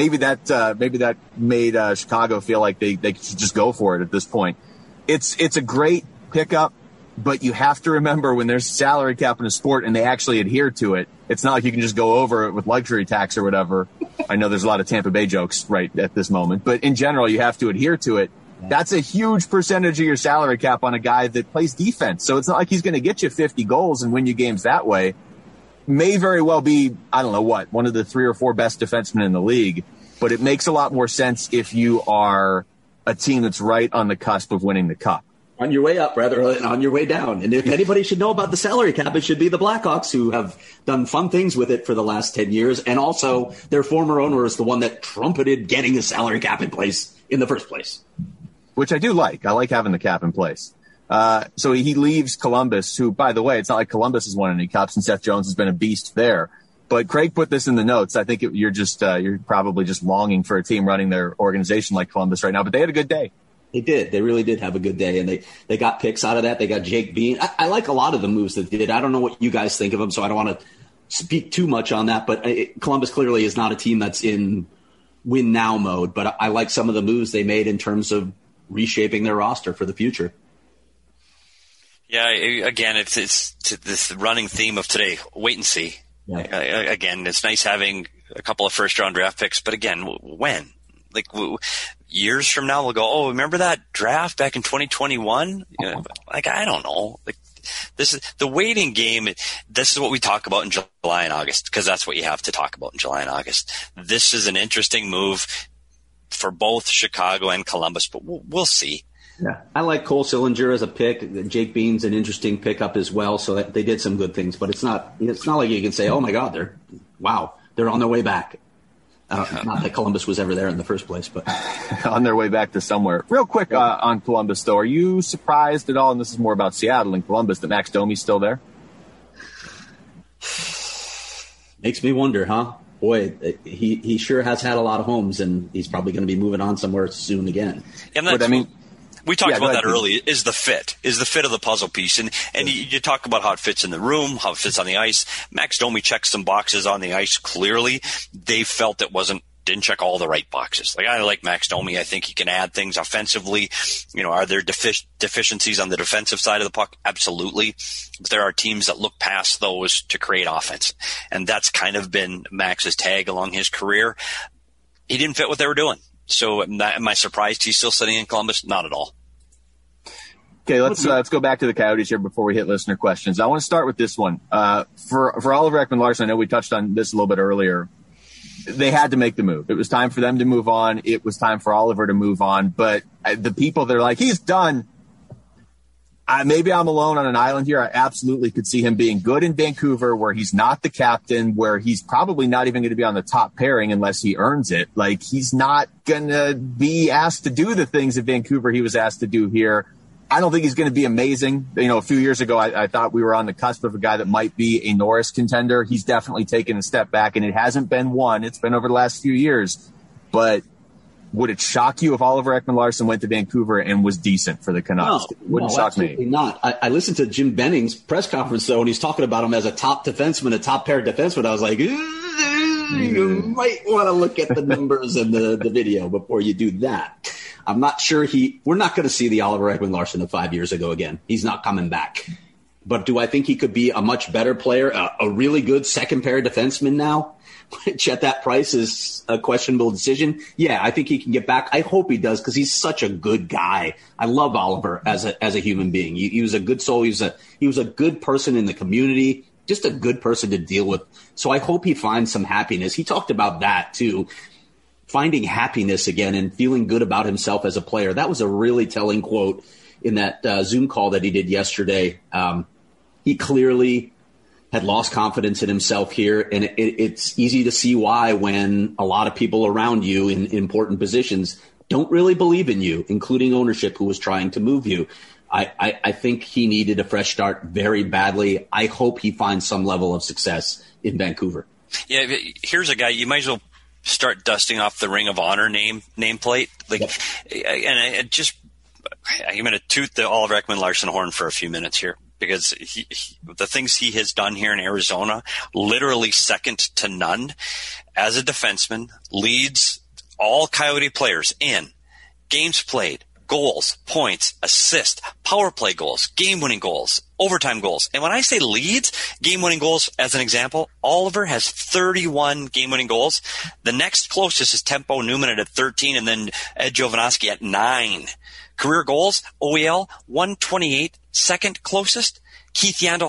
that made Chicago feel like they should just go for it at this point. It's a great pickup. But you have to remember when there's salary cap in a sport and they actually adhere to it, it's not like you can just go over it with luxury tax or whatever. I know there's a lot of Tampa Bay jokes right at this moment, but in general, you have to adhere to it. That's a huge percentage of your salary cap on a guy that plays defense. So it's not like he's going to get you 50 goals and win you games that way. May very well be, one of the 3 or 4 best defensemen in the league, but it makes a lot more sense if you are a team that's right on the cusp of winning the cup. On your way up rather than on your way down. And if anybody should know about the salary cap, it should be the Blackhawks, who have done fun things with it for the last 10 years. And also their former owner is the one that trumpeted getting the salary cap in place in the first place. Which I do like. I like having the cap in place. So he leaves Columbus, who, by the way, it's not like Columbus has won any cups and Seth Jones has been a beast there. But Craig put this in the notes. I think you're probably just longing for a team running their organization like Columbus right now. But they had a good day. They did. They really did have a good day, and they got picks out of that. They got Jake Bean. I like a lot of the moves that they did. I don't know what you guys think of them, so I don't want to speak too much on that. But Columbus clearly is not a team that's in win-now mode. But I like some of the moves they made in terms of reshaping their roster for the future. Yeah, again, it's this running theme of today. Wait and see. Yeah. Again, it's nice having a couple of first-round draft picks, but again, when? Like years from now, we'll go, oh, remember that draft back in 2021? I don't know. Like, this is the waiting game. This is what we talk about in July and August, because that's what you have to talk about in July and August. This is an interesting move for both Chicago and Columbus, but we'll see. Yeah, I like Cole Sillinger as a pick. Jake Bean's an interesting pickup as well. So that they did some good things, but it's not like you can say, oh my God, they're on their way back. Not that Columbus was ever there in the first place, but on their way back to somewhere. Real quick on Columbus, though, are you surprised at all? And this is more about Seattle and Columbus, that Max Domi's still there. Makes me wonder, huh? Boy, he sure has had a lot of homes, and he's probably going to be moving on somewhere soon again. Yeah, We talked about that early. Is the fit of the puzzle piece. And you talk about how it fits in the room, how it fits on the ice. Max Domi checks some boxes on the ice. Clearly, they felt it didn't check all the right boxes. Like, I like Max Domi. I think he can add things offensively. Are there deficiencies on the defensive side of the puck? Absolutely. But there are teams that look past those to create offense. And that's kind of been Max's tag along his career. He didn't fit what they were doing. So am I surprised he's still sitting in Columbus? Not at all. Okay, let's go back to the Coyotes here before we hit listener questions. I want to start with this one. For Oliver Ekman-Larsson, I know we touched on this a little bit earlier. They had to make the move. It was time for them to move on. It was time for Oliver to move on. But the people that are like, he's done. Maybe I'm alone on an island here. I absolutely could see him being good in Vancouver, where he's not the captain, where he's probably not even going to be on the top pairing unless he earns it. Like, he's not going to be asked to do the things in Vancouver he was asked to do here. I don't think he's going to be amazing. A few years ago, I thought we were on the cusp of a guy that might be a Norris contender. He's definitely taken a step back, and it hasn't been one. It's been over the last few years. But would it shock you if Oliver Ekman-Larsson went to Vancouver and was decent for the Canucks? No, wouldn't shock me. Not. I listened to Jim Benning's press conference, though, and he's talking about him as a top defenseman, a top pair defenseman. I was like, you might want to look at the numbers and the video before you do that. I'm not sure we're not going to see the Oliver Ekman-Larsson of 5 years ago again. He's not coming back. But do I think he could be a much better player, a really good second pair defenseman now, which at that price is a questionable decision? Yeah, I think he can get back. I hope he does, because he's such a good guy. I love Oliver as a human being. He was a good soul. He was a good person in the community, just a good person to deal with. So I hope he finds some happiness. He talked about that too. Finding happiness again and feeling good about himself as a player. That was a really telling quote in that Zoom call that he did yesterday. He clearly had lost confidence in himself here, and it's easy to see why when a lot of people around you in important positions don't really believe in you, including ownership who was trying to move you. I think he needed a fresh start very badly. I hope he finds some level of success in Vancouver. Yeah, here's a guy you might as well start dusting off the Ring of Honor nameplate. And I'm going to toot the Oliver Ekman-Larsson horn for a few minutes here, because the things he has done here in Arizona, literally second to none as a defenseman, leads all Coyote players in games played, goals, points, assists, power play goals, game-winning goals, overtime goals. And when I say leads, game-winning goals, as an example, Oliver has 31 game-winning goals. The next closest is Tempo Newman at 13, and then Ed Jovanovski at 9. Career goals, OEL, 128. Second closest, Keith Yandel,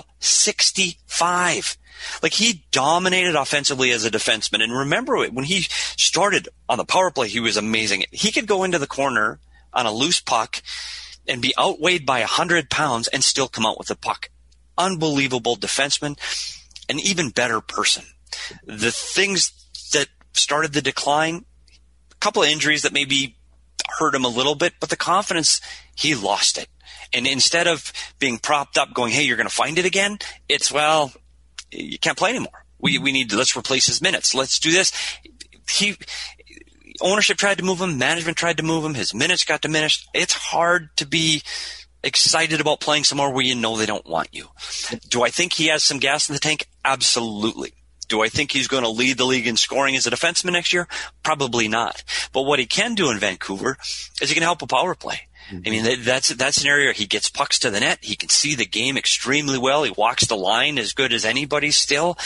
65. Like, he dominated offensively as a defenseman. And remember, when he started on the power play, he was amazing. He could go into the corner on a loose puck and be outweighed by 100 pounds and still come out with the puck. Unbelievable defenseman, an even better person. The things that started the decline, a couple of injuries that maybe hurt him a little bit, but the confidence, he lost it. And instead of being propped up going, hey, you're going to find it again, it's, well, you can't play anymore. We need to, let's replace his minutes. Let's do this. Ownership tried to move him. Management tried to move him. His minutes got diminished. It's hard to be excited about playing somewhere where you know they don't want you. Do I think he has some gas in the tank? Absolutely. Do I think he's going to lead the league in scoring as a defenseman next year? Probably not. But what he can do in Vancouver is he can help a power play. I mean, that's an area where he gets pucks to the net. He can see the game extremely well. He walks the line as good as anybody still.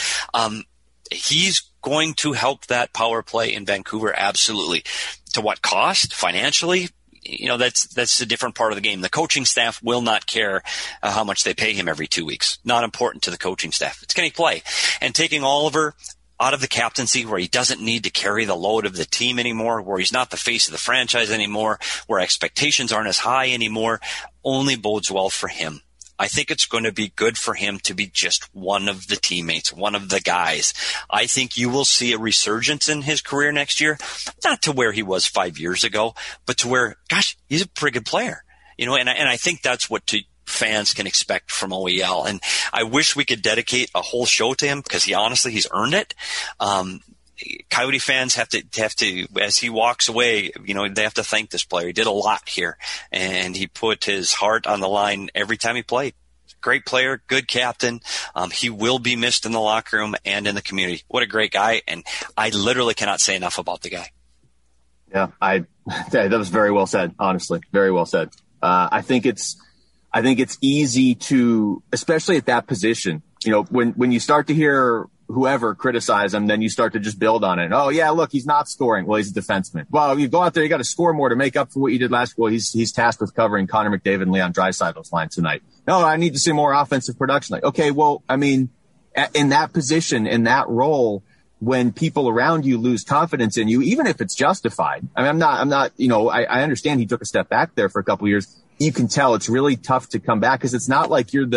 He's going to help that power play in Vancouver, absolutely. To what cost? Financially? That's a different part of the game. The coaching staff will not care how much they pay him every 2 weeks. Not important to the coaching staff. It's can he play? And taking Oliver out of the captaincy, where he doesn't need to carry the load of the team anymore, where he's not the face of the franchise anymore, where expectations aren't as high anymore, only bodes well for him. I think it's going to be good for him to be just one of the teammates, one of the guys. I think you will see a resurgence in his career next year, not to where he was 5 years ago, but to where, gosh, he's a pretty good player. And I think that's what fans can expect from OEL. And I wish we could dedicate a whole show to him, because he's earned it. Coyote fans have to, as he walks away, they have to thank this player. He did a lot here, and he put his heart on the line every time he played. Great player, good captain. He will be missed in the locker room and in the community. What a great guy, and I literally cannot say enough about the guy. Yeah, that was very well said, honestly. Very well said. I think it's easy to, especially at that position, when you start to hear whoever criticize him, then you start to just build on it. Oh yeah, look, he's not scoring. Well, he's a defenseman. Well, you go out there, you got to score more to make up for what you did last. Well, he's tasked with covering Connor McDavid and Leon Draisaitl's line tonight. No, I need to see more offensive production. Like, okay, well, I mean, in that position, in that role, when people around you lose confidence in you, even if it's justified. I mean, I'm not, I understand he took a step back there for a couple of years. You can tell it's really tough to come back because it's not like you're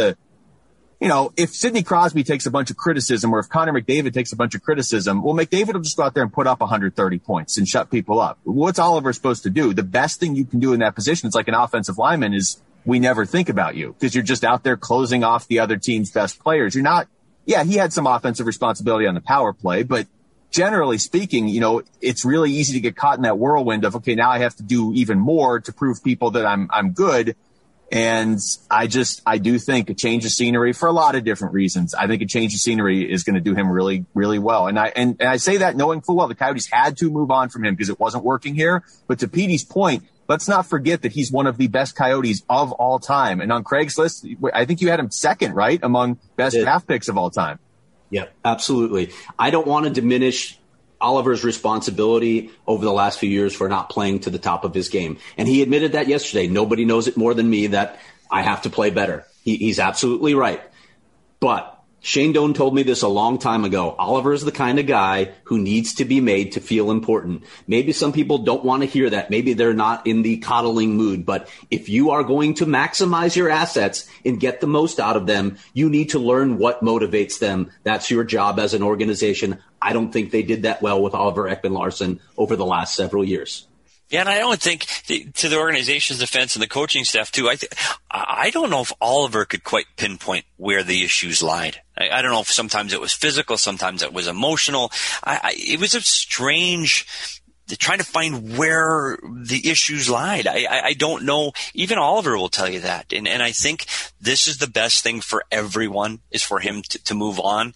if Sidney Crosby takes a bunch of criticism or if Connor McDavid takes a bunch of criticism, well, McDavid will just go out there and put up 130 points and shut people up. What's Oliver supposed to do? The best thing you can do in that position, it's like an offensive lineman, is we never think about you because you're just out there closing off the other team's best players. You're not, yeah, he had some offensive responsibility on the power play, but generally speaking, it's really easy to get caught in that whirlwind of, okay, now I have to do even more to prove people that I'm good. And I do think a change of scenery for a lot of different reasons. I think a change of scenery is going to do him really, really well. And I say that knowing full well the Coyotes had to move on from him because it wasn't working here. But to Petey's point, let's not forget that he's one of the best Coyotes of all time. And on Craig's list, I think you had him second, right, among best draft picks of all time. Yeah, absolutely. I don't want to diminish Oliver's responsibility over the last few years for not playing to the top of his game. And he admitted that yesterday. Nobody knows it more than me that I have to play better. He's absolutely right. But Shane Doan told me this a long time ago. Oliver is the kind of guy who needs to be made to feel important. Maybe some people don't want to hear that. Maybe they're not in the coddling mood. But if you are going to maximize your assets and get the most out of them, you need to learn what motivates them. That's your job as an organization. I don't think they did that well with Oliver Ekman-Larsson over the last several years. Yeah, and I don't think, to the organization's defense and the coaching staff too, I don't know if Oliver could quite pinpoint where the issues lied. I don't know if sometimes it was physical, sometimes it was emotional. It was a strange trying to find where the issues lied. I don't know. Even Oliver will tell you that. And I think this is the best thing for everyone, is for him to move on.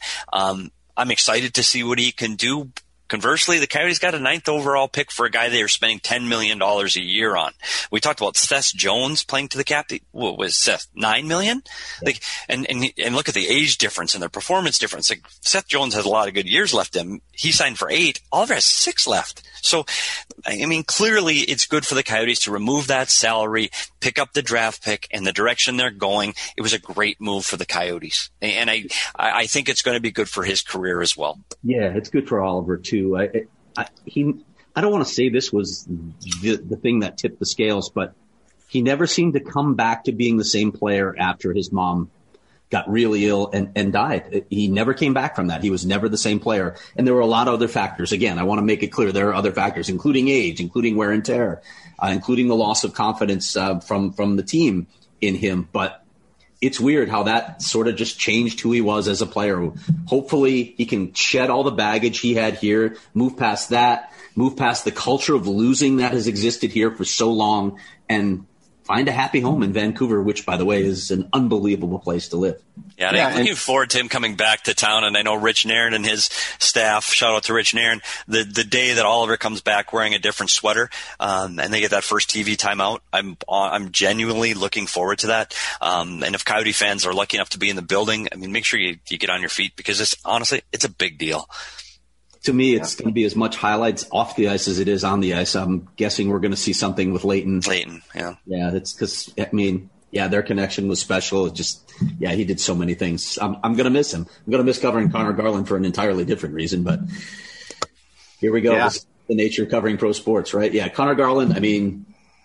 I'm excited to see what he can do. Conversely, the Coyotes got a 9th overall pick for a guy they are spending $10 million a year on. We talked about Seth Jones playing to the cap. What was Seth, $9 million? Yeah. And look at the age difference and the performance difference. Like, Seth Jones has a lot of good years left in him. He signed for 8. Oliver has 6 left. So, I mean, clearly it's good for the Coyotes to remove that salary, pick up the draft pick, and the direction they're going. It was a great move for the Coyotes. And I think it's going to be good for his career as well. Yeah, it's good for Oliver, too. I don't want to say this was the thing that tipped the scales, but he never seemed to come back to being the same player after his mom got really ill and died. He never came back from that. He was never the same player. And there were a lot of other factors. Again, I want to make it clear there are other factors, including age, including wear and tear, including the loss of confidence from the team in him. But it's weird how that sort of just changed who he was as a player. Hopefully he can shed all the baggage he had here, move past that, move past the culture of losing that has existed here for so long, and find a happy home in Vancouver, which, by the way, is an unbelievable place to live. Yeah, I'm looking forward to him coming back to town. And I know Rich Nairn and his staff, shout out to Rich Nairn, the day that Oliver comes back wearing a different sweater, and they get that first TV timeout, I'm genuinely looking forward to that. And if Coyote fans are lucky enough to be in the building, I mean, make sure you get on your feet, because honestly, it's a big deal. To me, it's going to be as much highlights off the ice as it is on the ice. I'm guessing we're going to see something with Leighton. Yeah. Yeah, it's because, I mean, yeah, their connection was special. It just, yeah, he did so many things. I'm going to miss him. I'm going to miss covering Connor Garland for an entirely different reason, but here we go. Yeah. This is the nature of covering pro sports, right? Yeah, Connor Garland, I mean,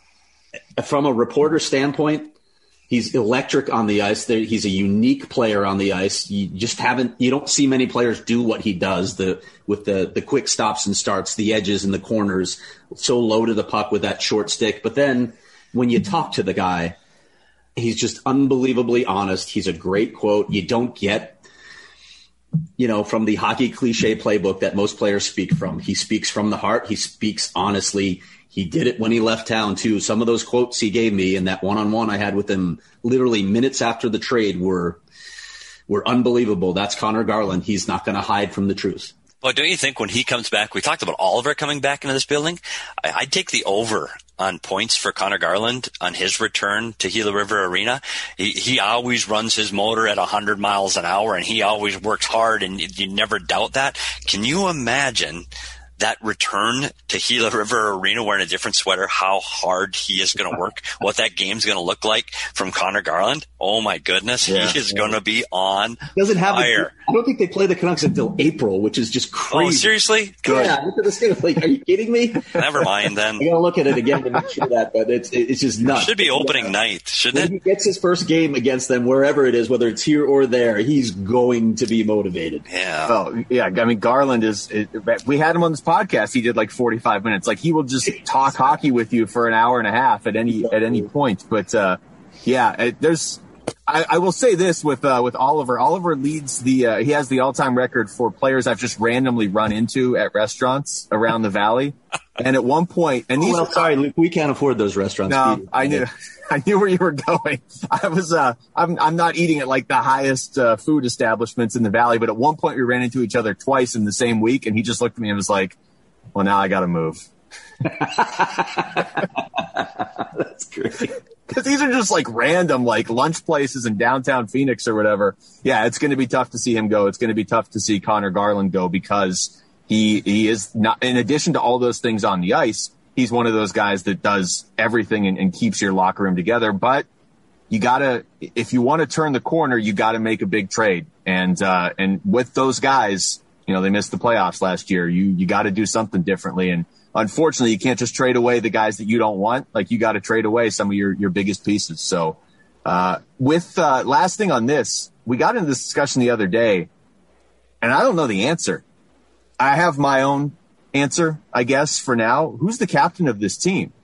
from a reporter standpoint, he's electric on the ice. He's a unique player on the ice. You don't see many players do what he does, with the quick stops and starts, the edges and the corners, so low to the puck with that short stick. But then when you talk to the guy, he's just unbelievably honest. He's a great quote. You don't get from the hockey cliche playbook that most players speak from. He speaks from the heart. He speaks honestly. He did it when he left town, too. Some of those quotes he gave me and that one-on-one I had with him literally minutes after the trade were unbelievable. That's Connor Garland. He's not going to hide from the truth. Well, don't you think when he comes back, we talked about Oliver coming back into this building. I'd take the over on points for Connor Garland on his return to Gila River Arena. He always runs his motor at 100 miles an hour, and he always works hard, and you never doubt that. Can you imagine that return to Gila River Arena wearing a different sweater, how hard he is going to work, what that game's going to look like from Connor Garland? Oh, my goodness. He is going to be on fire. I don't think they play the Canucks until April, which is just crazy. Oh, seriously? Good. Yeah, look at this game. Like, are you kidding me? Never mind, then. I'm going to look at it again to make sure that, but it's just nuts. It should be opening night, shouldn't it? When he gets his first game against them, wherever it is, whether it's here or there, he's going to be motivated. Yeah. Oh, yeah. I mean, Garland we had him on this podcast. He did like 45 minutes. Like, he will just talk hockey with you for an hour and a half at any point. But, I will say this with Oliver. Oliver leads he has the all-time record for players I've just randomly run into at restaurants around the valley. And at one point, sorry, Luke, we can't afford those restaurants. No, I knew where you were going. I'm not eating at like the highest food establishments in the valley, but at one point we ran into each other twice in the same week, and he just looked at me and was like, "Well, now I got to move." That's great. Because these are just like random, like lunch places in downtown Phoenix or whatever. Yeah, it's going to be tough to see him go. It's going to be tough to see Connor Garland go because he is not, in addition to all those things on the ice, he's one of those guys that does everything and keeps your locker room together. But you gotta, if you want to turn the corner, you got to make a big trade. And with those guys, they missed the playoffs last year. You got to do something differently. And unfortunately, you can't just trade away the guys that you don't want. Like, you got to trade away some of your biggest pieces. So last thing on this, we got into this discussion the other day, and I don't know the answer. I have my own answer, I guess, for now. Who's the captain of this team?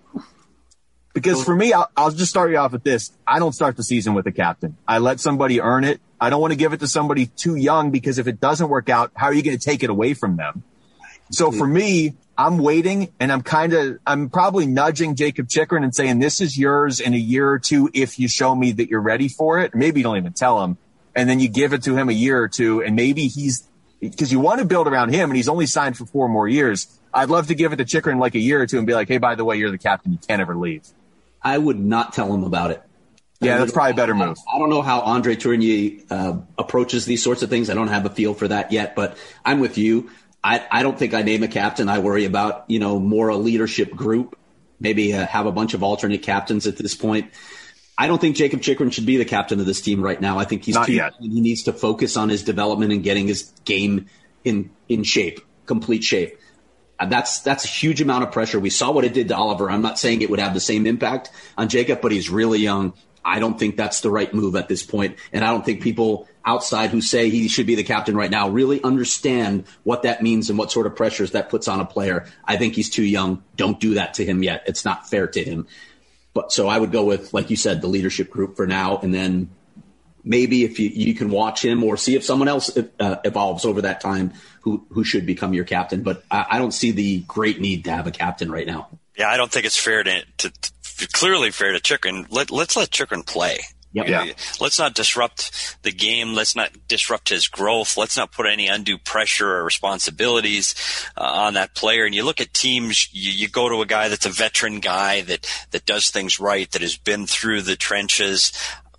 Because for me, I'll just start you off with this. I don't start the season with a captain. I let somebody earn it. I don't want to give it to somebody too young, because if it doesn't work out, how are you going to take it away from them? So for me, I'm waiting, and I'm probably nudging Jacob Chychrun and saying, this is yours in a year or two if you show me that you're ready for it. Maybe you don't even tell him, and then you give it to him a year or two, and maybe because you want to build around him, and he's only signed for 4 more years. I'd love to give it to Chychrun like a year or two and be like, hey, by the way, you're the captain. You can't ever leave. I would not tell him about it. Yeah, that's probably a better move. I don't know how Andre Tourigny approaches these sorts of things. I don't have a feel for that yet, but I'm with you. I don't think I name a captain. I worry about, more a leadership group, maybe have a bunch of alternate captains at this point. I don't think Jacob Chychrun should be the captain of this team right now. I think he's too young. He needs to focus on his development and getting his game in shape, complete shape. That's a huge amount of pressure. We saw what it did to Oliver. I'm not saying it would have the same impact on Jacob, but he's really young. I don't think that's the right move at this point. And I don't think people outside who say he should be the captain right now really understand what that means and what sort of pressures that puts on a player. I think he's too young. Don't do that to him yet. It's not fair to him. But so I would go with, like you said, the leadership group for now. And then maybe if you can watch him or see if someone else evolves over that time who should become your captain. But I don't see the great need to have a captain right now. Yeah, I don't think it's fair to clearly fair to Chychrun. Let's let Chychrun play. Yep. Yeah. Let's not disrupt the game. Let's not disrupt his growth. Let's not put any undue pressure or responsibilities on that player. And you look at teams, you go to a guy that's a veteran guy that does things right, that has been through the trenches.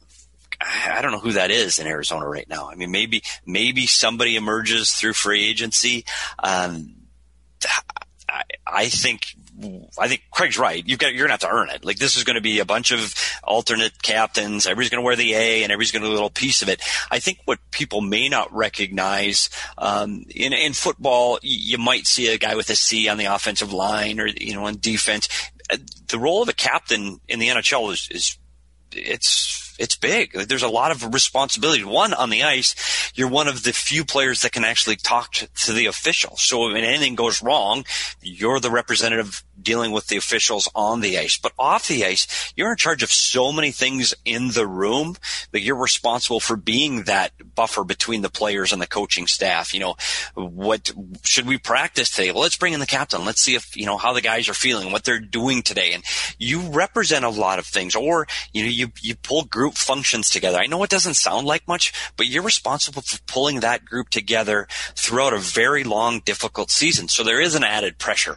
I don't know who that is in Arizona right now. I mean, maybe somebody emerges through free agency. I think Craig's right. You're going to have to earn it. Like, this is going to be a bunch of alternate captains. Everybody's going to wear the A, and everybody's going to do a little piece of it. I think what people may not recognize in football, you might see a guy with a C on the offensive line, or on defense. The role of a captain in the NHL it's big. There's a lot of responsibility. One, on the ice, you're one of the few players that can actually talk to the official. So when anything goes wrong, you're the representative dealing with the officials on the ice. But off the ice, you're in charge of so many things in the room that you're responsible for being that buffer between the players and the coaching staff. What should we practice today? Well, let's bring in the captain. Let's see if, how the guys are feeling, what they're doing today. And you represent a lot of things, or, you pull group functions together. I know it doesn't sound like much, but you're responsible for pulling that group together throughout a very long, difficult season. So there is an added pressure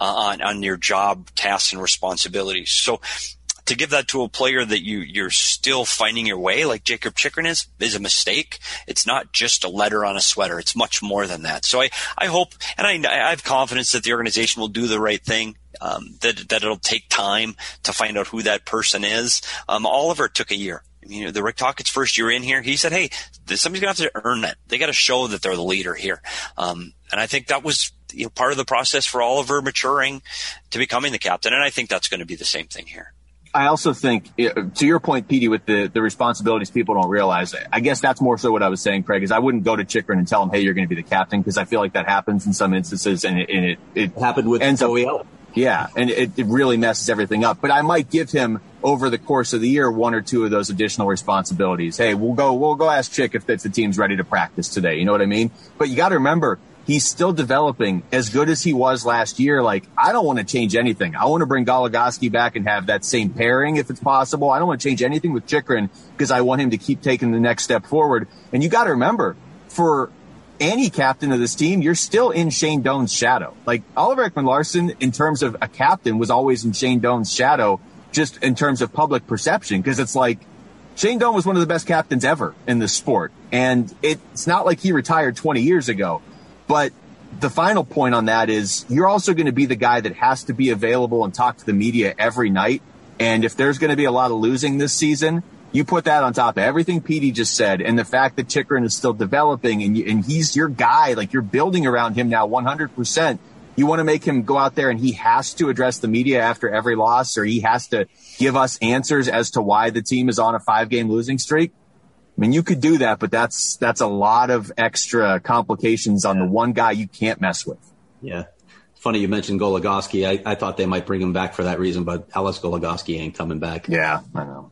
on your job, tasks, and responsibilities. So to give that to a player that you're still finding your way, like Jakob Chychrun is a mistake. It's not just a letter on a sweater. It's much more than that. So I hope, and I have confidence that the organization will do the right thing. That it'll take time to find out who that person is. Oliver took a year. The Rick Tocchet's first year in here, he said, hey, somebody's going to have to earn that. They got to show that they're the leader here. And I think that was part of the process for Oliver maturing to becoming the captain. And I think that's going to be the same thing here. I also think, to your point, Petey, with the responsibilities people don't realize, I guess that's more so what I was saying, Craig, is I wouldn't go to Chychrun and tell him, hey, you're going to be the captain, because I feel like that happens in some instances, and it happened with OEL. Yeah, and it really messes everything up. But I might give him, over the course of the year, one or two of those additional responsibilities. Hey, we'll go ask Chick if the team's ready to practice today. You know what I mean? But you got to remember, he's still developing as good as he was last year. Like, I don't want to change anything. I want to bring Goligoski back and have that same pairing if it's possible. I don't want to change anything with Chychrun because I want him to keep taking the next step forward. And you got to remember, for any captain of this team, you're still in Shane Doan's shadow. Like, Oliver Ekman-Larsson, in terms of a captain, was always in Shane Doan's shadow, just in terms of public perception, because it's like, Shane Doan was one of the best captains ever in this sport. And it's not like he retired 20 years ago. But the final point on that is, you're also going to be the guy that has to be available and talk to the media every night. And if there's going to be a lot of losing this season, you put that on top of everything Petey just said, and the fact that Chychrun is still developing, and he's your guy, like, you're building around him now 100%. You want to make him go out there and he has to address the media after every loss, or he has to give us answers as to why the team is on a 5-game losing streak. I mean, you could do that, but that's a lot of extra complications on the one guy you can't mess with. Yeah. Funny you mentioned Goligoski. I thought they might bring him back for that reason, but Alex Goligoski ain't coming back. Yeah, I know.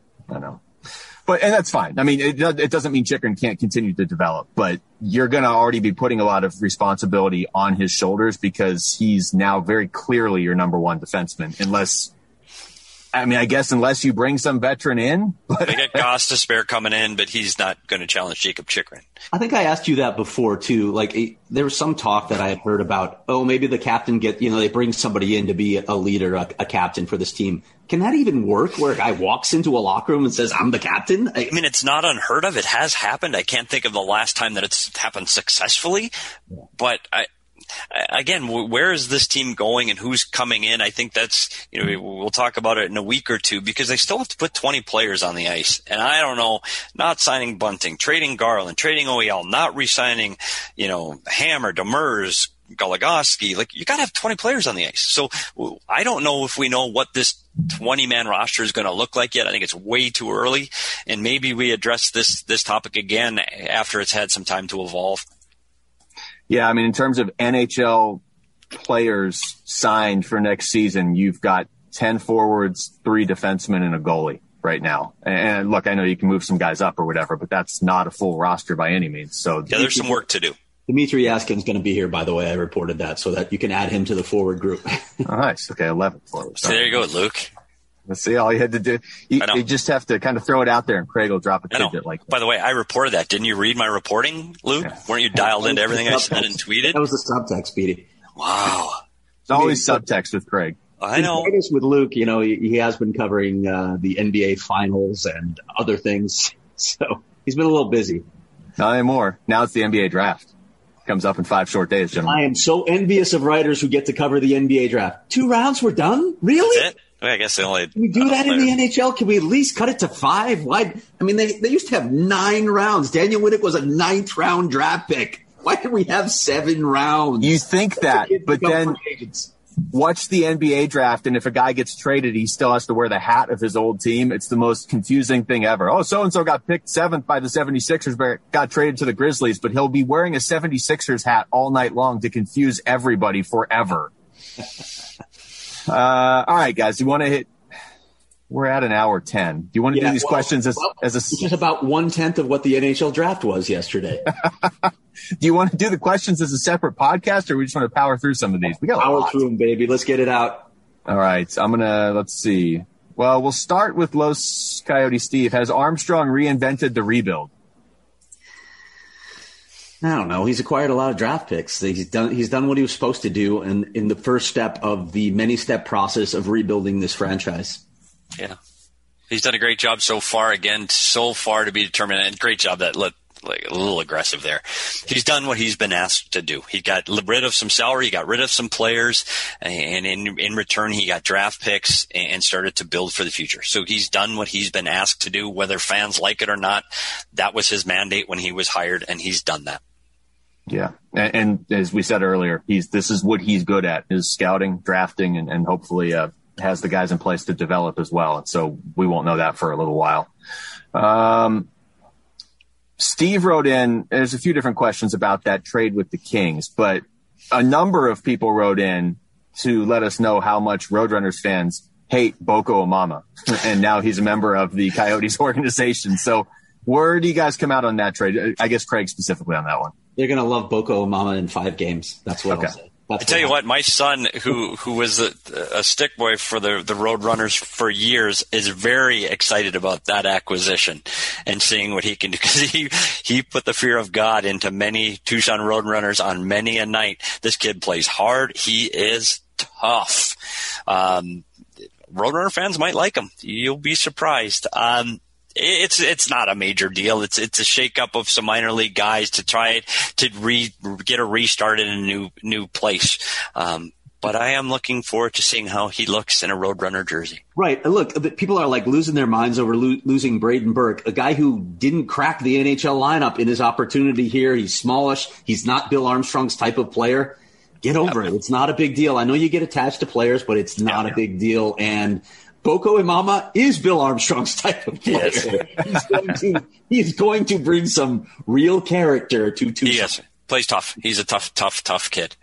And that's fine. I mean, it doesn't mean Chychrun can't continue to develop, but you're going to already be putting a lot of responsibility on his shoulders, because he's now very clearly your number one defenseman, unless you bring some veteran in. They got Gostisbehere coming in, but he's not going to challenge Jakob Chychrun. I think I asked you that before too. Like, there was some talk that I had heard about, maybe the captain they bring somebody in to be a leader, a captain for this team. Can that even work, where a guy walks into a locker room and says, I'm the captain? I mean, it's not unheard of. It has happened. I can't think of the last time that it's happened successfully, but again, where is this team going and who's coming in? I think that's, we'll talk about it in a week or two, because they still have to put 20 players on the ice. And I don't know, not signing Bunting, trading Garland, trading OEL, not re-signing, Hammer, Demers, Goligoski. Like, you got to have 20 players on the ice. So I don't know if we know what this 20-man roster is going to look like yet. I think it's way too early. And maybe we address this topic again after it's had some time to evolve. Yeah, I mean, in terms of NHL players signed for next season, you've got 10 forwards, 3 defensemen, and a goalie right now. And look, I know you can move some guys up or whatever, but that's not a full roster by any means. So yeah, there's some work to do. Dmitry Yaskin's going to be here, by the way. I reported that, so that you can add him to the forward group. Oh, nice. Okay, 11 forwards. So there you go, Luke. Let's see, all you had to do, you just have to kind of throw it out there, and Craig will drop a tidbit like that. By the way, I reported that. Didn't you read my reporting, Luke? Yeah. Weren't you dialed into everything I said and tweeted? That was the subtext, Speedy. Wow. It's always subtext with Craig. I know. With Luke, he has been covering the NBA Finals and other things, so he's been a little busy. Not anymore. Now it's the NBA Draft. Comes up in 5 short days, gentlemen. I am so envious of writers who get to cover the NBA Draft. 2 rounds, we're done? Really? That's it? I guess they only. Can we do that in the NHL? Can we at least cut it to 5? Why? I mean, they used to have 9 rounds. Daniel Winnick was a 9th round draft pick. Why did we have 7 rounds? You think that, but then watch the NBA Draft, and if a guy gets traded, he still has to wear the hat of his old team. It's the most confusing thing ever. Oh, so-and-so got picked 7th by the 76ers, but got traded to the Grizzlies, but he'll be wearing a 76ers hat all night long to confuse everybody forever. All right, guys. Do you want to hit? We're at an hour 10. Do you want to do these questions as a? It's about 1/10 of what the NHL draft was yesterday. Do you want to do the questions as a separate podcast, or we just want to power through some of these? We got power through them, baby. Let's get it out. All right. Let's see. Well, we'll start with Los Coyote Steve. Has Armstrong reinvented the rebuild? I don't know. He's acquired a lot of draft picks. He's done what he was supposed to do in the first step of the many-step process of rebuilding this franchise. Yeah. He's done a great job so far. Again, so far to be determined. And great job that like a little aggressive there. He's done what he's been asked to do. He got rid of some salary, he got rid of some players, and in return he got draft picks and started to build for the future. So he's done what he's been asked to do, whether fans like it or not. That was his mandate when he was hired, and he's done that. Yeah. And as we said earlier, this is what he's good at, is scouting, drafting, and hopefully has the guys in place to develop as well. And so we won't know that for a little while. Steve wrote in, there's a few different questions about that trade with the Kings, but a number of people wrote in to let us know how much Roadrunners fans hate Boko Imama. And now he's a member of the Coyotes organization. So where do you guys come out on that trade? I guess Craig specifically on that one. They're going to love Boko Imama in 5 games. That's what I'll say. I tell you what, my son, who was a stick boy for the Roadrunners for years, is very excited about that acquisition and seeing what he can do, because he put the fear of God into many Tucson Roadrunners on many a night. This kid plays hard. He is tough. Roadrunner fans might like him. You'll be surprised. It's not a major deal. It's a shakeup of some minor league guys to try to get a restart in a new place. But I am looking forward to seeing how he looks in a Roadrunner jersey. Right. Look, people are like losing their minds over losing Braden Burke, a guy who didn't crack the NHL lineup in his opportunity here. He's smallish. He's not Bill Armstrong's type of player. Get over it. It's not a big deal. I know you get attached to players, but it's not a big deal. And Boko Imama is Bill Armstrong's type of player. Yes. He's going to bring some real character to Tucson. Yes, plays tough. He's a tough kid.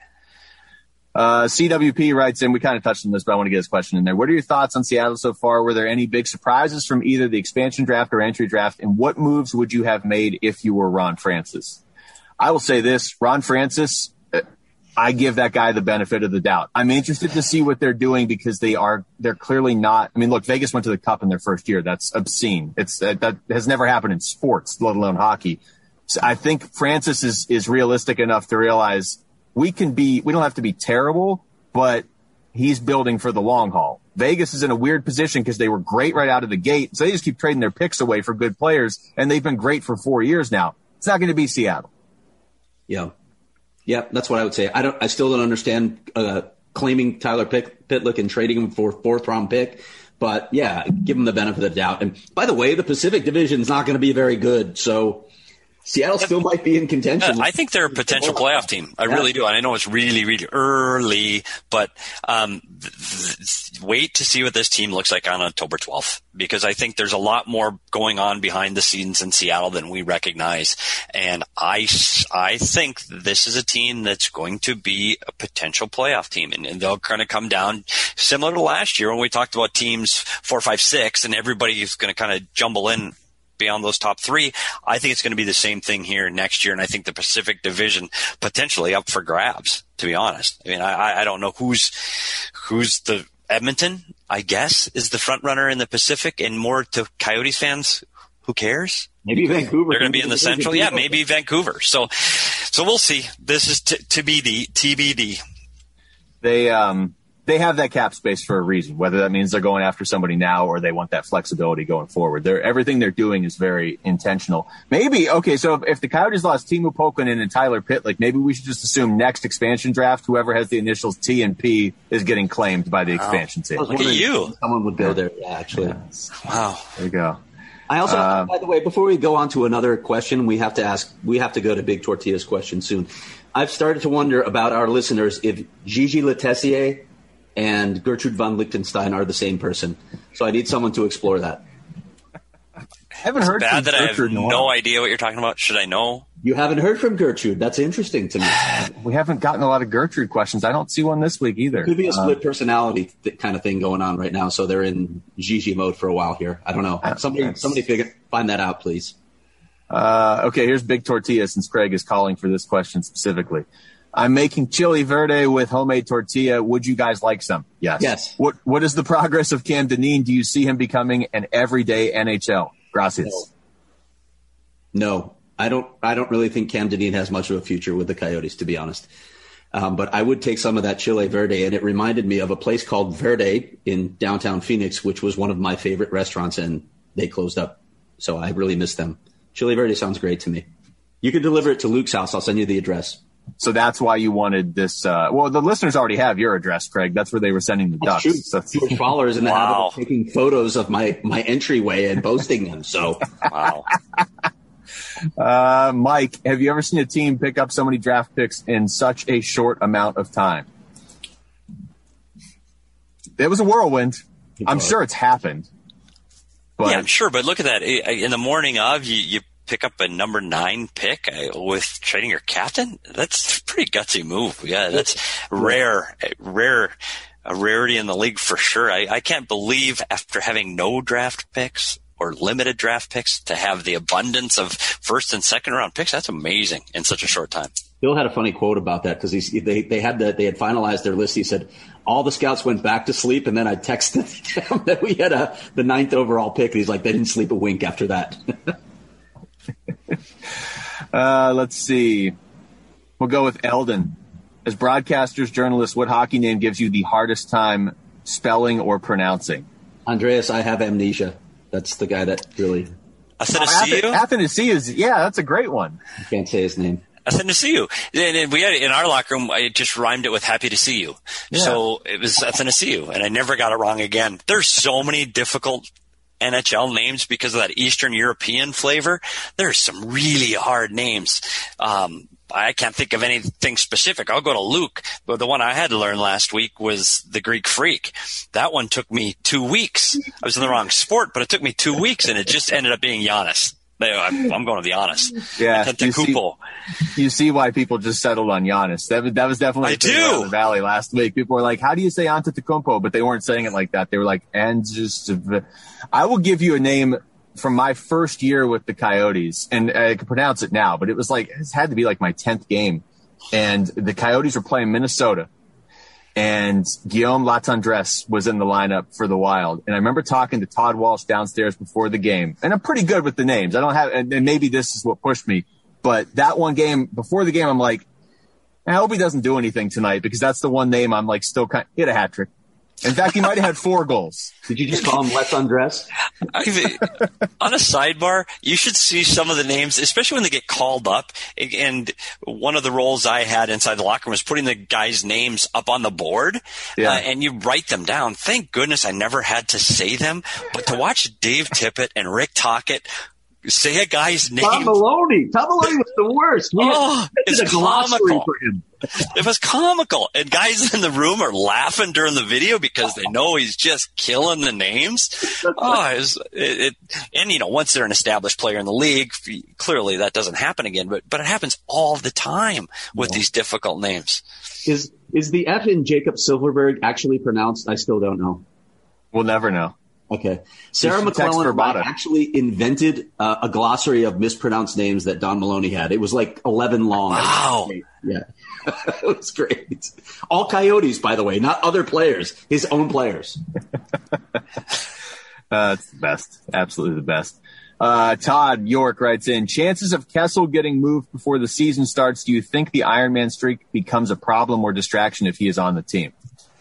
CWP writes in, we kind of touched on this, but I want to get this question in there. What are your thoughts on Seattle so far? Were there any big surprises from either the expansion draft or entry draft? And what moves would you have made if you were Ron Francis? I will say this, Ron Francis, I give that guy the benefit of the doubt. I'm interested to see what they're doing, because they're clearly not. I mean, look, Vegas went to the Cup in their first year. That's obscene. That has never happened in sports, let alone hockey. So I think Francis is realistic enough to realize we don't have to be terrible, but he's building for the long haul. Vegas is in a weird position because they were great right out of the gate. So they just keep trading their picks away for good players, and they've been great for 4 years now. It's not going to be Seattle. Yeah. Yeah, that's what I would say. I still don't understand claiming Tyler Pitlick and trading him for 4th-round pick. But, yeah, give him the benefit of the doubt. And, by the way, the Pacific Division is not going to be very good. So Seattle still might be in contention. I think they're a potential playoff team. I really do. And I know it's really, really early, but wait to see what this team looks like on October 12th, because I think there's a lot more going on behind the scenes in Seattle than we recognize. And I think this is a team that's going to be a potential playoff team, and they'll kind of come down similar to last year when we talked about teams 4, 5, 6, and everybody is going to kind of jumble in beyond those top 3. I think it's going to be the same thing here next year, and I think the Pacific Division potentially up for grabs, to be honest. I mean, I don't know who's the Edmonton, I guess, is the front runner in the Pacific, and more to Coyotes fans, who cares? Maybe Vancouver. They're going to be in the Central. Yeah, maybe Vancouver. So we'll see. This is TBD. They have that cap space for a reason, whether that means they're going after somebody now or they want that flexibility going forward. Everything they're doing is very intentional. Maybe, okay, so if the Coyotes lost Teemu Pukkanen and Tyler Pitlick, maybe we should just assume next expansion draft, whoever has the initials T and P is getting claimed by the expansion team. Look at you. Someone would go there, actually. Yeah. Wow. There you go. I also, by the way, before we go on to another question, we have to go to Big Tortilla's question soon. I've started to wonder about our listeners if Gigi Letessier and Gertrude von Lichtenstein are the same person. So I need someone to explore that. I haven't heard bad that I have Gertrude no idea what you're talking about. Should I know? You haven't heard from Gertrude. That's interesting to me. We haven't gotten a lot of Gertrude questions. I don't see one this week either. Could be a split personality kind of thing going on right now. So they're in Gigi mode for a while here. I don't know. Somebody find that out, please. Okay, here's Big Tortilla, since Craig is calling for this question specifically. I'm making chili verde with homemade tortilla. Would you guys like some? Yes. Yes. What is the progress of Cam Dineen? Do you see him becoming an everyday NHL? Gracias. No, I don't really think Cam Dineen has much of a future with the Coyotes, to be honest. But I would take some of that chili verde, and it reminded me of a place called Verde in downtown Phoenix, which was one of my favorite restaurants, and they closed up. So I really miss them. Chili verde sounds great to me. You can deliver it to Luke's house. I'll send you the address. So that's why you wanted this. Well, the listeners already have your address, Craig. That's where they were sending the ducks. So. Your followers in the habit of taking photos of my entryway and posting them. So, Wow. Mike, have you ever seen a team pick up so many draft picks in such a short amount of time? It was a whirlwind. I'm sure it's happened. But, yeah, I'm sure. But look at that. In the morning of, you pick up a number 9 pick with trading your captain. That's a pretty gutsy move. Yeah, that's rare, a rarity in the league for sure. I can't believe after having no draft picks or limited draft picks to have the abundance of first and second round picks. That's amazing in such a short time. Bill had a funny quote about that because they had finalized their list. He said all the scouts went back to sleep, and then I texted him that we had the 9th overall pick. And he's like, they didn't sleep a wink after that. Let's see. We'll go with Eldon. As broadcasters, journalists, what hockey name gives you the hardest time spelling or pronouncing? Andreas, I have amnesia. That's the guy that really... Athanasiou, yeah, that's a great one. I can't say his name. Athanasiou. And we had in our locker room, I just rhymed it with happy to see you. Yeah. So it was Athanasiou, and I never got it wrong again. There's so many difficult NHL names because of that Eastern European flavor. There's some really hard names. I can't think of anything specific. I'll go to Luke, but the one I had to learn last week was the Greek Freak. That one took me 2 weeks. I was in the wrong sport, but it took me 2 weeks, and it just ended up being Giannis. I'm going with Giannis. Yeah, you see why people just settled on Giannis. That was definitely around the Valley last week. People were like, how do you say Antetokounmpo? But they weren't saying it like that. They were like, and just I will give you a name from my first year with the Coyotes, and I can pronounce it now, but it had to be like my 10th game. And the Coyotes were playing Minnesota, and Guillaume Latendresse was in the lineup for the Wild. And I remember talking to Todd Walsh downstairs before the game, and I'm pretty good with the names. I don't have, and maybe this is what pushed me, but that one game before the game, I'm like, I hope he doesn't do anything tonight, because that's the one name I'm like still he had a hat trick. In fact, he might have had 4 goals. Did you just call him Let's Undress? On a sidebar, you should see some of the names, especially when they get called up. And one of the roles I had inside the locker room was putting the guys' names up on the board, and you write them down. Thank goodness I never had to say them. But to watch Dave Tippett and Rick Tocchet say a guy's name. Tom Maloney was the worst. It's a comical for him. It was comical, and guys in the room are laughing during the video because they know he's just killing the names. And once they're an established player in the league, clearly that doesn't happen again. But it happens all the time with these difficult names. Is the F in Jacob Silverberg actually pronounced? I still don't know. We'll never know. Okay. Sarah McClellan actually invented a glossary of mispronounced names that Don Maloney had. It was like 11 long. Wow. Yeah. It was great. All Coyotes, by the way, not other players, his own players. It's the best. Absolutely the best. Todd York writes in, chances of Kessel getting moved before the season starts. Do you think the Ironman streak becomes a problem or distraction if he is on the team?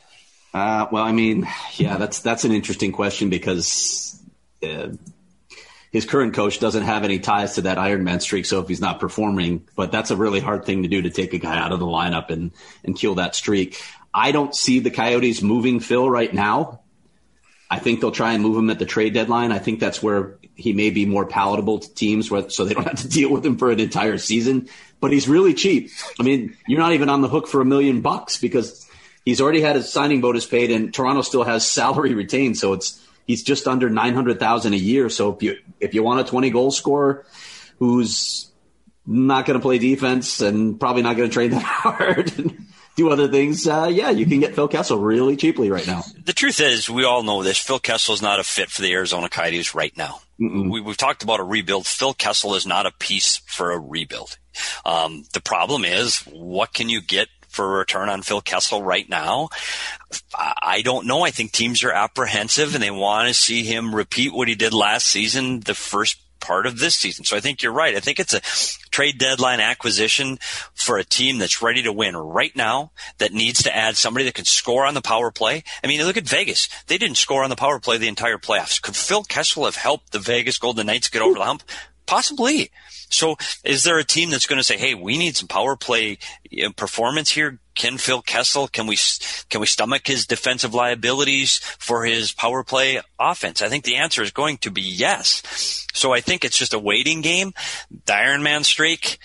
That's an interesting question because his current coach doesn't have any ties to that Ironman streak. So if he's not performing, but that's a really hard thing to do, to take a guy out of the lineup and kill that streak. I don't see the Coyotes moving Phil right now. I think they'll try and move him at the trade deadline. I think that's where he may be more palatable to teams, so they don't have to deal with him for an entire season. But he's really cheap. I mean, you're not even on the hook for $1 million because he's already had his signing bonus paid, and Toronto still has salary retained. So he's just under $900,000 a year. So if you want a 20 goal scorer who's not going to play defense and probably not going to train that hard and do other things, you can get Phil Kessel really cheaply right now. The truth is, we all know this. Phil Kessel is not a fit for the Arizona Coyotes right now. We've talked about a rebuild. Phil Kessel is not a piece for a rebuild. The problem is, what can you get for a return on Phil Kessel right now? I don't know. I think teams are apprehensive and they want to see him repeat what he did last season, the first part of this season. So I think you're right. I think it's a trade deadline acquisition for a team that's ready to win right now, that needs to add somebody that can score on the power play. I mean, look at Vegas. They didn't score on the power play the entire playoffs. Could Phil Kessel have helped the Vegas Golden Knights get over the hump? Possibly. So is there a team that's going to say, hey, we need some power play performance here? Can Phil Kessel, can we stomach his defensive liabilities for his power play offense? I think the answer is going to be yes. So I think it's just a waiting game. The Iron Man streak,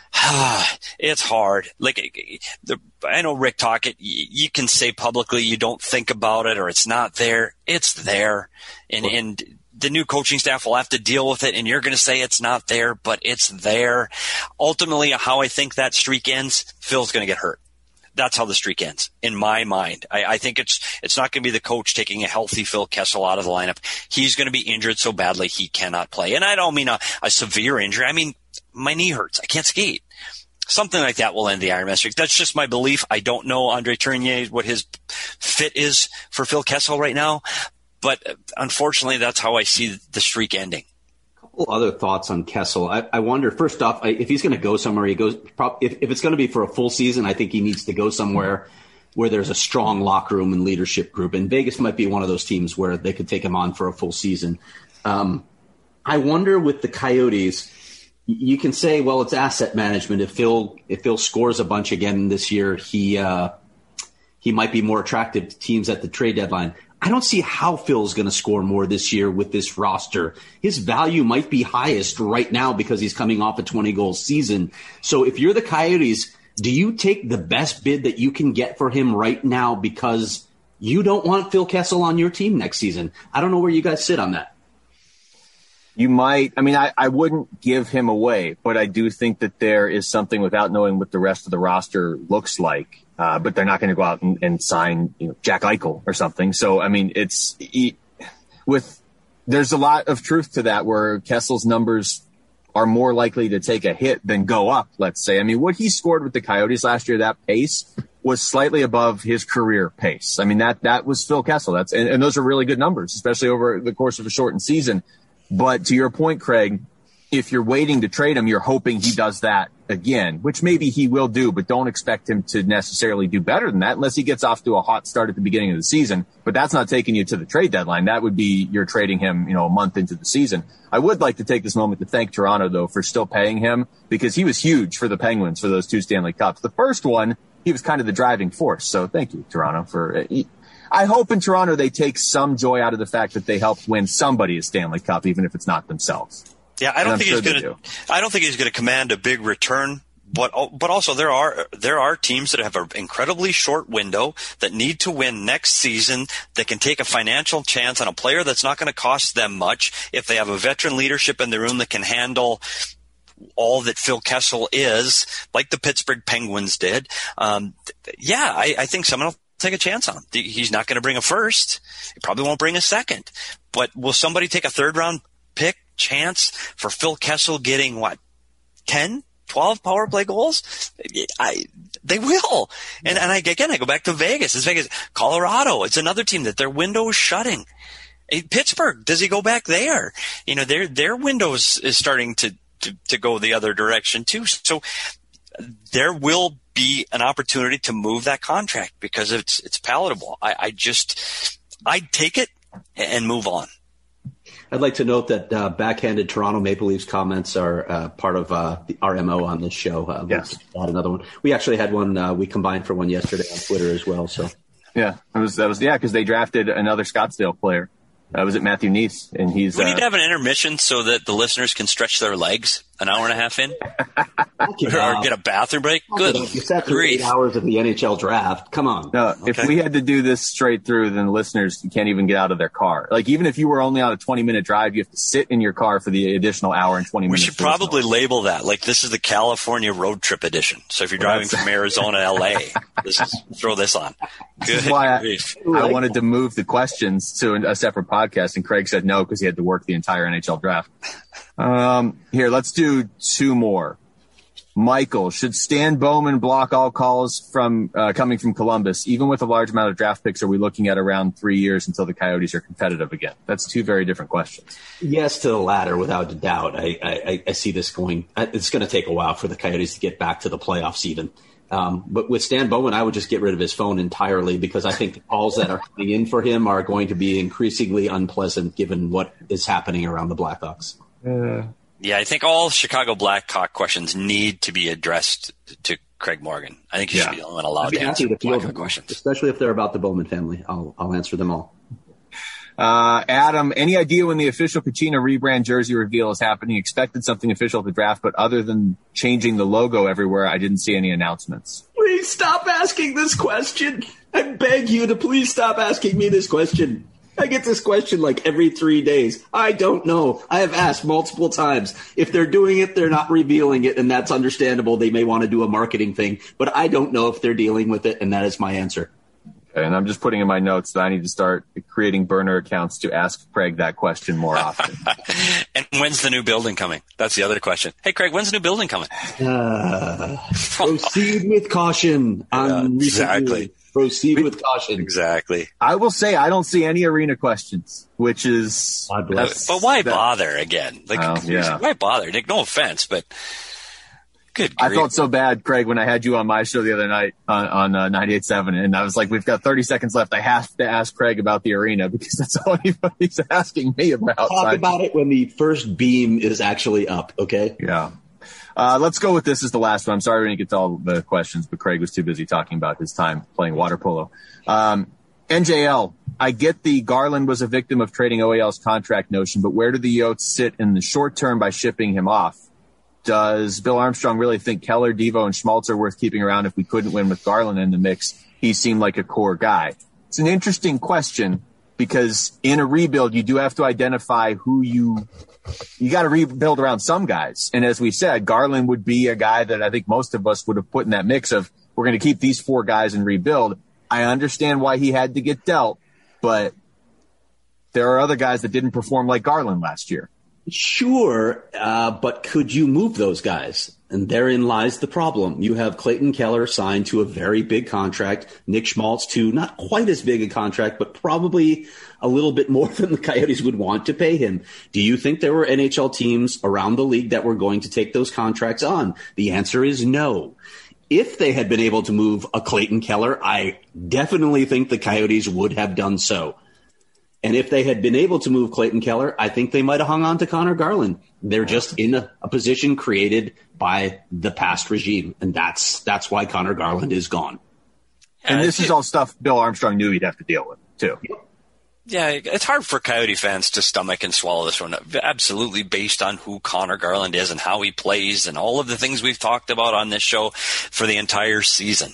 it's hard. I know Rick Tocchet, you can say publicly you don't think about it or it's not there. It's there. And the new coaching staff will have to deal with it, and you're going to say it's not there, but it's there. Ultimately, how I think that streak ends, Phil's going to get hurt. That's how the streak ends, in my mind. I think it's not going to be the coach taking a healthy Phil Kessel out of the lineup. He's going to be injured so badly he cannot play. And I don't mean a severe injury. I mean, my knee hurts. I can't skate. Something like that will end the Iron Man streak. That's just my belief. I don't know Andre Tourigny, what his fit is for Phil Kessel right now. But unfortunately, that's how I see the streak ending. A couple other thoughts on Kessel. I wonder, first off, if he's going to go somewhere, if it's going to be for a full season, I think he needs to go somewhere where there's a strong locker room and leadership group. And Vegas might be one of those teams where they could take him on for a full season. I wonder with the Coyotes, you can say, well, it's asset management. If Phil scores a bunch again this year, he might be more attractive to teams at the trade deadline. I don't see how Phil's going to score more this year with this roster. His value might be highest right now because he's coming off a 20-goal season. So if you're the Coyotes, do you take the best bid that you can get for him right now because you don't want Phil Kessel on your team next season? I don't know where you guys sit on that. You might. I mean, I wouldn't give him away, but I do think that there is something without knowing what the rest of the roster looks like. But they're not going to go out and sign, Jack Eichel or something. So, I mean, there's a lot of truth to that where Kessel's numbers are more likely to take a hit than go up, let's say. I mean, what he scored with the Coyotes last year, that pace was slightly above his career pace. I mean, that was Phil Kessel. And those are really good numbers, especially over the course of a shortened season. But to your point, Craig, if you're waiting to trade him, you're hoping he does that again, which maybe he will do, but don't expect him to necessarily do better than that unless he gets off to a hot start at the beginning of the season. But that's not taking you to the trade deadline. That would be you're trading him, a month into the season. I would like to take this moment to thank Toronto, though, for still paying him because he was huge for the Penguins for those 2 Stanley Cups. The first one, he was kind of the driving force. So thank you, Toronto, for I hope in Toronto they take some joy out of the fact that they helped win somebody a Stanley Cup, even if it's not themselves. Yeah, I don't think he's going to command a big return, but also there are teams that have an incredibly short window that need to win next season that can take a financial chance on a player that's not going to cost them much if they have a veteran leadership in the room that can handle all that Phil Kessel is, like the Pittsburgh Penguins did. I think someone will take a chance on him. He's not going to bring a first. He probably won't bring a second. But will somebody take a 3rd-round pick chance for Phil Kessel getting 10, 12 power play goals? They will. And I go back to Vegas. It's Vegas. Colorado, it's another team that their window is shutting. Pittsburgh, does he go back there? Their window is starting to go the other direction too. So there will be an opportunity to move that contract because it's palatable. I'd take it and move on. I'd like to note that backhanded Toronto Maple Leafs comments are part of our MO on this show. Yes. Add another one. We actually had one. We combined for one yesterday on Twitter as well. So yeah, that was because they drafted another Scottsdale player. Was it Matthew Neese? And he's. We need to have an intermission so that the listeners can stretch their legs. an hour and a half in? Or Get a bathroom break? Good You sat through 8 hours of the NHL draft. Come on. No, if we had to do this straight through, then listeners can't even get out of their car. Like, even if you were only on a 20-minute drive, you have to sit in your car for the additional hour and 20 minutes. We should probably label that like this is the California road trip edition. So if you're driving from Arizona to LA, throw this on. This is why I wanted to move the questions to a separate podcast, and Craig said no because he had to work the entire NHL draft. Here, let's do two more. Michael, should Stan Bowman block all calls from coming from Columbus? Even with a large amount of draft picks, are we looking at around 3 years until the Coyotes are competitive again? That's two very different questions. Yes to the latter, without a doubt. I see this going. It's going to take a while for the Coyotes to get back to the playoffs even. But with Stan Bowman, I would just get rid of his phone entirely because I think the calls that are coming in for him are going to be increasingly unpleasant given what is happening around the Blackhawks. Yeah, I think all Chicago Blackhawk questions need to be addressed to Craig Morgan. I think he should be the only one allowed to answer Blackhawk questions. Especially if they're about the Bowman family. I'll answer them all. Adam, any idea when the official Kachina rebrand jersey reveal is happening? Expected something official at the draft, but other than changing the logo everywhere, I didn't see any announcements. Please stop asking this question. I beg you to please stop asking me this question. I get this question like every 3 days. I don't know. I have asked multiple times. If they're doing it, they're not revealing it, and that's understandable. They may want to do a marketing thing, but I don't know if they're dealing with it, and that is my answer. Okay, and I'm just putting in my notes that I need to start creating burner accounts to ask Craig that question more often. And when's the new building coming? That's the other question. Hey, Craig, when's the new building coming? Proceed with caution. Exactly. Proceed with caution. Exactly. I will say I don't see any arena questions, which is... But why bother again? Why bother? Nick, no offense, but good grief. I felt so bad, Craig, when I had you on my show the other night on 98.7, and I was like, we've got 30 seconds left. I have to ask Craig about the arena because that's all anybody's asking me about. Talk about it when the first beam is actually up, okay? Yeah. Let's go with this as the last one. I'm sorry we didn't get to all the questions, but Craig was too busy talking about his time playing water polo. NJL, I get the Garland was a victim of trading OEL's contract notion, but where do the Yotes sit in the short term by shipping him off? Does Bill Armstrong really think Keller, Devo, and Schmaltz are worth keeping around if we couldn't win with Garland in the mix? He seemed like a core guy. It's an interesting question because in a rebuild, you do have to identify who you got to rebuild around some guys. And as we said, Garland would be a guy that I think most of us would have put in that mix of we're going to keep these four guys and rebuild. I understand why he had to get dealt, but there are other guys that didn't perform like Garland last year. Sure, but could you move those guys? And therein lies the problem. You have Clayton Keller signed to a very big contract, Nick Schmaltz to not quite as big a contract, but probably a little bit more than the Coyotes would want to pay him. Do you think there were NHL teams around the league that were going to take those contracts on? The answer is no. If they had been able to move a Clayton Keller, I definitely think the Coyotes would have done so. And if they had been able to move Clayton Keller, I think they might have hung on to Connor Garland. They're just in a position created by the past regime, and that's why Connor Garland is gone. And this is all stuff Bill Armstrong knew he'd have to deal with, too. Yeah, it's hard for Coyote fans to stomach and swallow this one, absolutely based on who Connor Garland is and how he plays and all of the things we've talked about on this show for the entire season.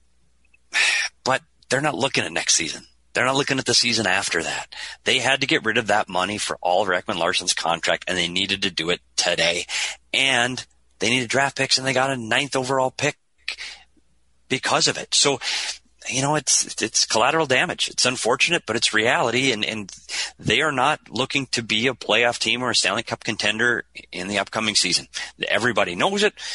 But they're not looking at next season. They're not looking at the season after that. They had to get rid of that money for all of Ekman-Larsson's contract, and they needed to do it today. And they needed draft picks, and they got a 9th overall pick because of it. So, it's collateral damage. It's unfortunate, but it's reality, and they are not looking to be a playoff team or a Stanley Cup contender in the upcoming season. Everybody knows it.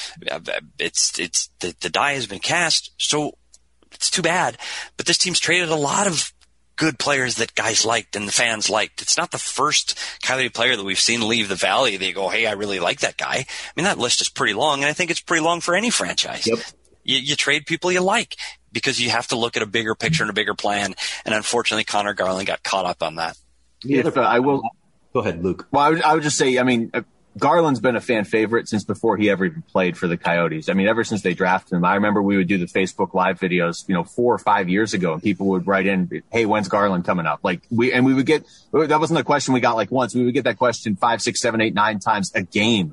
The die has been cast, so it's too bad. But this team's traded a lot of good players that guys liked and the fans liked. It's not the first Coyote player that we've seen leave the Valley. They go, hey, I really like that guy. I mean, that list is pretty long, and I think it's pretty long for any franchise. Yep. You trade people you like because you have to look at a bigger picture and a bigger plan, and unfortunately, Connor Garland got caught up on that. I will go ahead, Luke. Well, I would just say, Garland's been a fan favorite since before he ever even played for the Coyotes. I mean, ever since they drafted him. I remember we would do the Facebook Live videos, 4 or 5 years ago, and people would write in, hey, when's Garland coming up? We would get, that wasn't a question we got once. We would get that question 5, 6, 7, 8, 9 times a game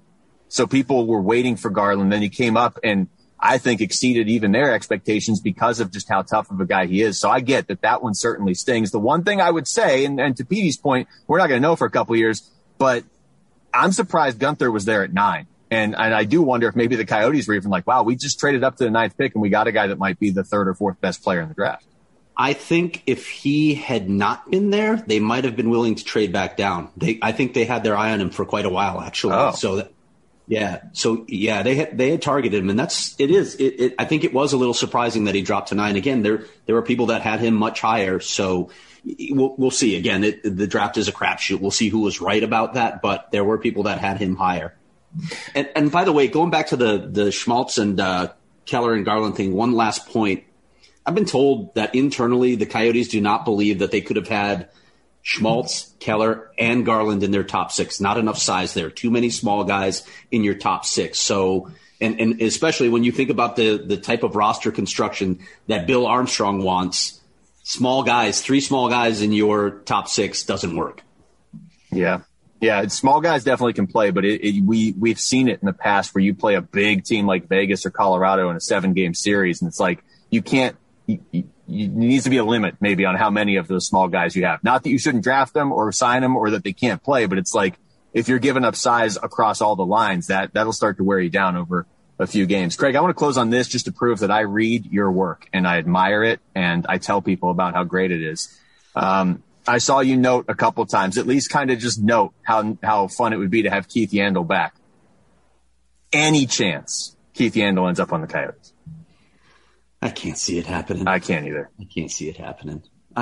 So people were waiting for Garland. Then he came up and I think exceeded even their expectations because of just how tough of a guy he is. So I get that one certainly stings. The one thing I would say, and to Petey's point, we're not going to know for a couple of years, but I'm surprised Gunther was there at 9. And I do wonder if maybe the Coyotes were even like, wow, we just traded up to the 9th pick and we got a guy that might be the 3rd or 4th best player in the draft. I think if he had not been there, they might have been willing to trade back down. I think they had their eye on him for quite a while, actually. Oh. They had targeted him, and I think it was a little surprising that he dropped to 9. Again, there were people that had him much higher, so we'll see. Again, the draft is a crapshoot. We'll see who was right about that, but there were people that had him higher. And by the way, going back to the Schmaltz and Keller and Garland thing, one last point. I've been told that internally the Coyotes do not believe that they could have had Schmaltz, Keller, and Garland in their top 6. Not enough size there. Too many small guys in your top 6. So, and especially when you think about the type of roster construction that Bill Armstrong wants, small guys, 3 small guys in your top 6 doesn't work. Yeah. Yeah, small guys definitely can play, but we've seen it in the past where you play a big team like Vegas or Colorado in a 7-game series, and it's like you can't. You needs to be a limit maybe on how many of those small guys you have. Not that you shouldn't draft them or sign them or that they can't play, but it's like if you're giving up size across all the lines, that'll start to wear you down over a few games. Craig, I want to close on this just to prove that I read your work and I admire it and I tell people about how great it is. I saw you note a couple times, at least kind of just note how fun it would be to have Keith Yandle back. Any chance Keith Yandle ends up on the Coyotes? I can't see it happening. I can't either. I can't see it happening.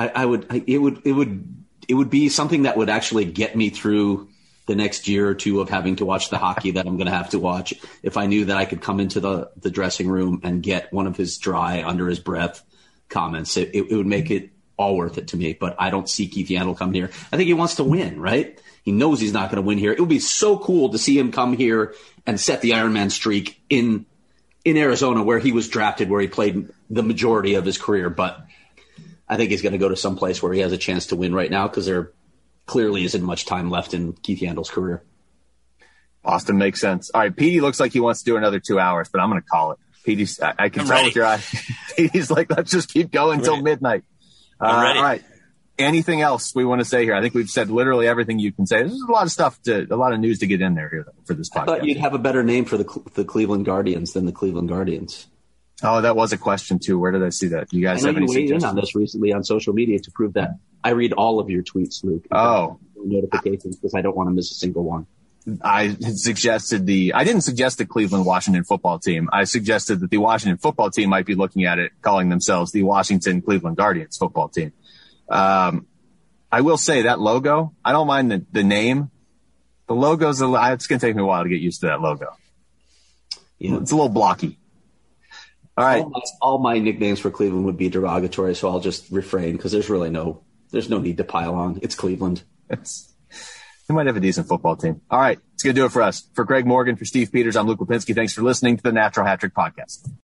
It would be something that would actually get me through the next year or two of having to watch the hockey that I'm going to have to watch. If I knew that I could come into the dressing room and get one of his dry under his breath comments, it would make it all worth it to me. But I don't see Keith Yandle come here. I think he wants to win, right? He knows he's not going to win here. It would be so cool to see him come here and set the Ironman streak in Arizona, where he was drafted, where he played the majority of his career. But I think he's going to go to some place where he has a chance to win right now because there clearly isn't much time left in Keith Yandle's career. Boston makes sense. All right, Petey looks like he wants to do another 2 hours, but I'm going to call it. Petey's, I can tell with your eye. Petey's like, let's just keep going until midnight. All right. Anything else we want to say here? I think we've said literally everything you can say. There's a lot of news to get in there here for this podcast. I thought you'd have a better name for the Cleveland Guardians than the Cleveland Guardians. Oh, that was a question too. Where did I see that? You guys have any suggestions? I weighed in on this recently on social media to prove that I read all of your tweets, Luke. Oh, notifications because I don't want to miss a single one. I didn't suggest the Cleveland Washington football team. I suggested that the Washington football team might be looking at it, calling themselves the Washington Cleveland Guardians football team. I will say that logo, I don't mind the name. The logo's it's going to take me a while to get used to that logo. Yeah. It's a little blocky. All right. All my nicknames for Cleveland would be derogatory, so I'll just refrain because there's no need to pile on. It's Cleveland. They might have a decent football team. All right. It's going to do it for us. For Craig Morgan, for Steve Peters, I'm Luke Lipinski. Thanks for listening to the Natural Hat Trick Podcast.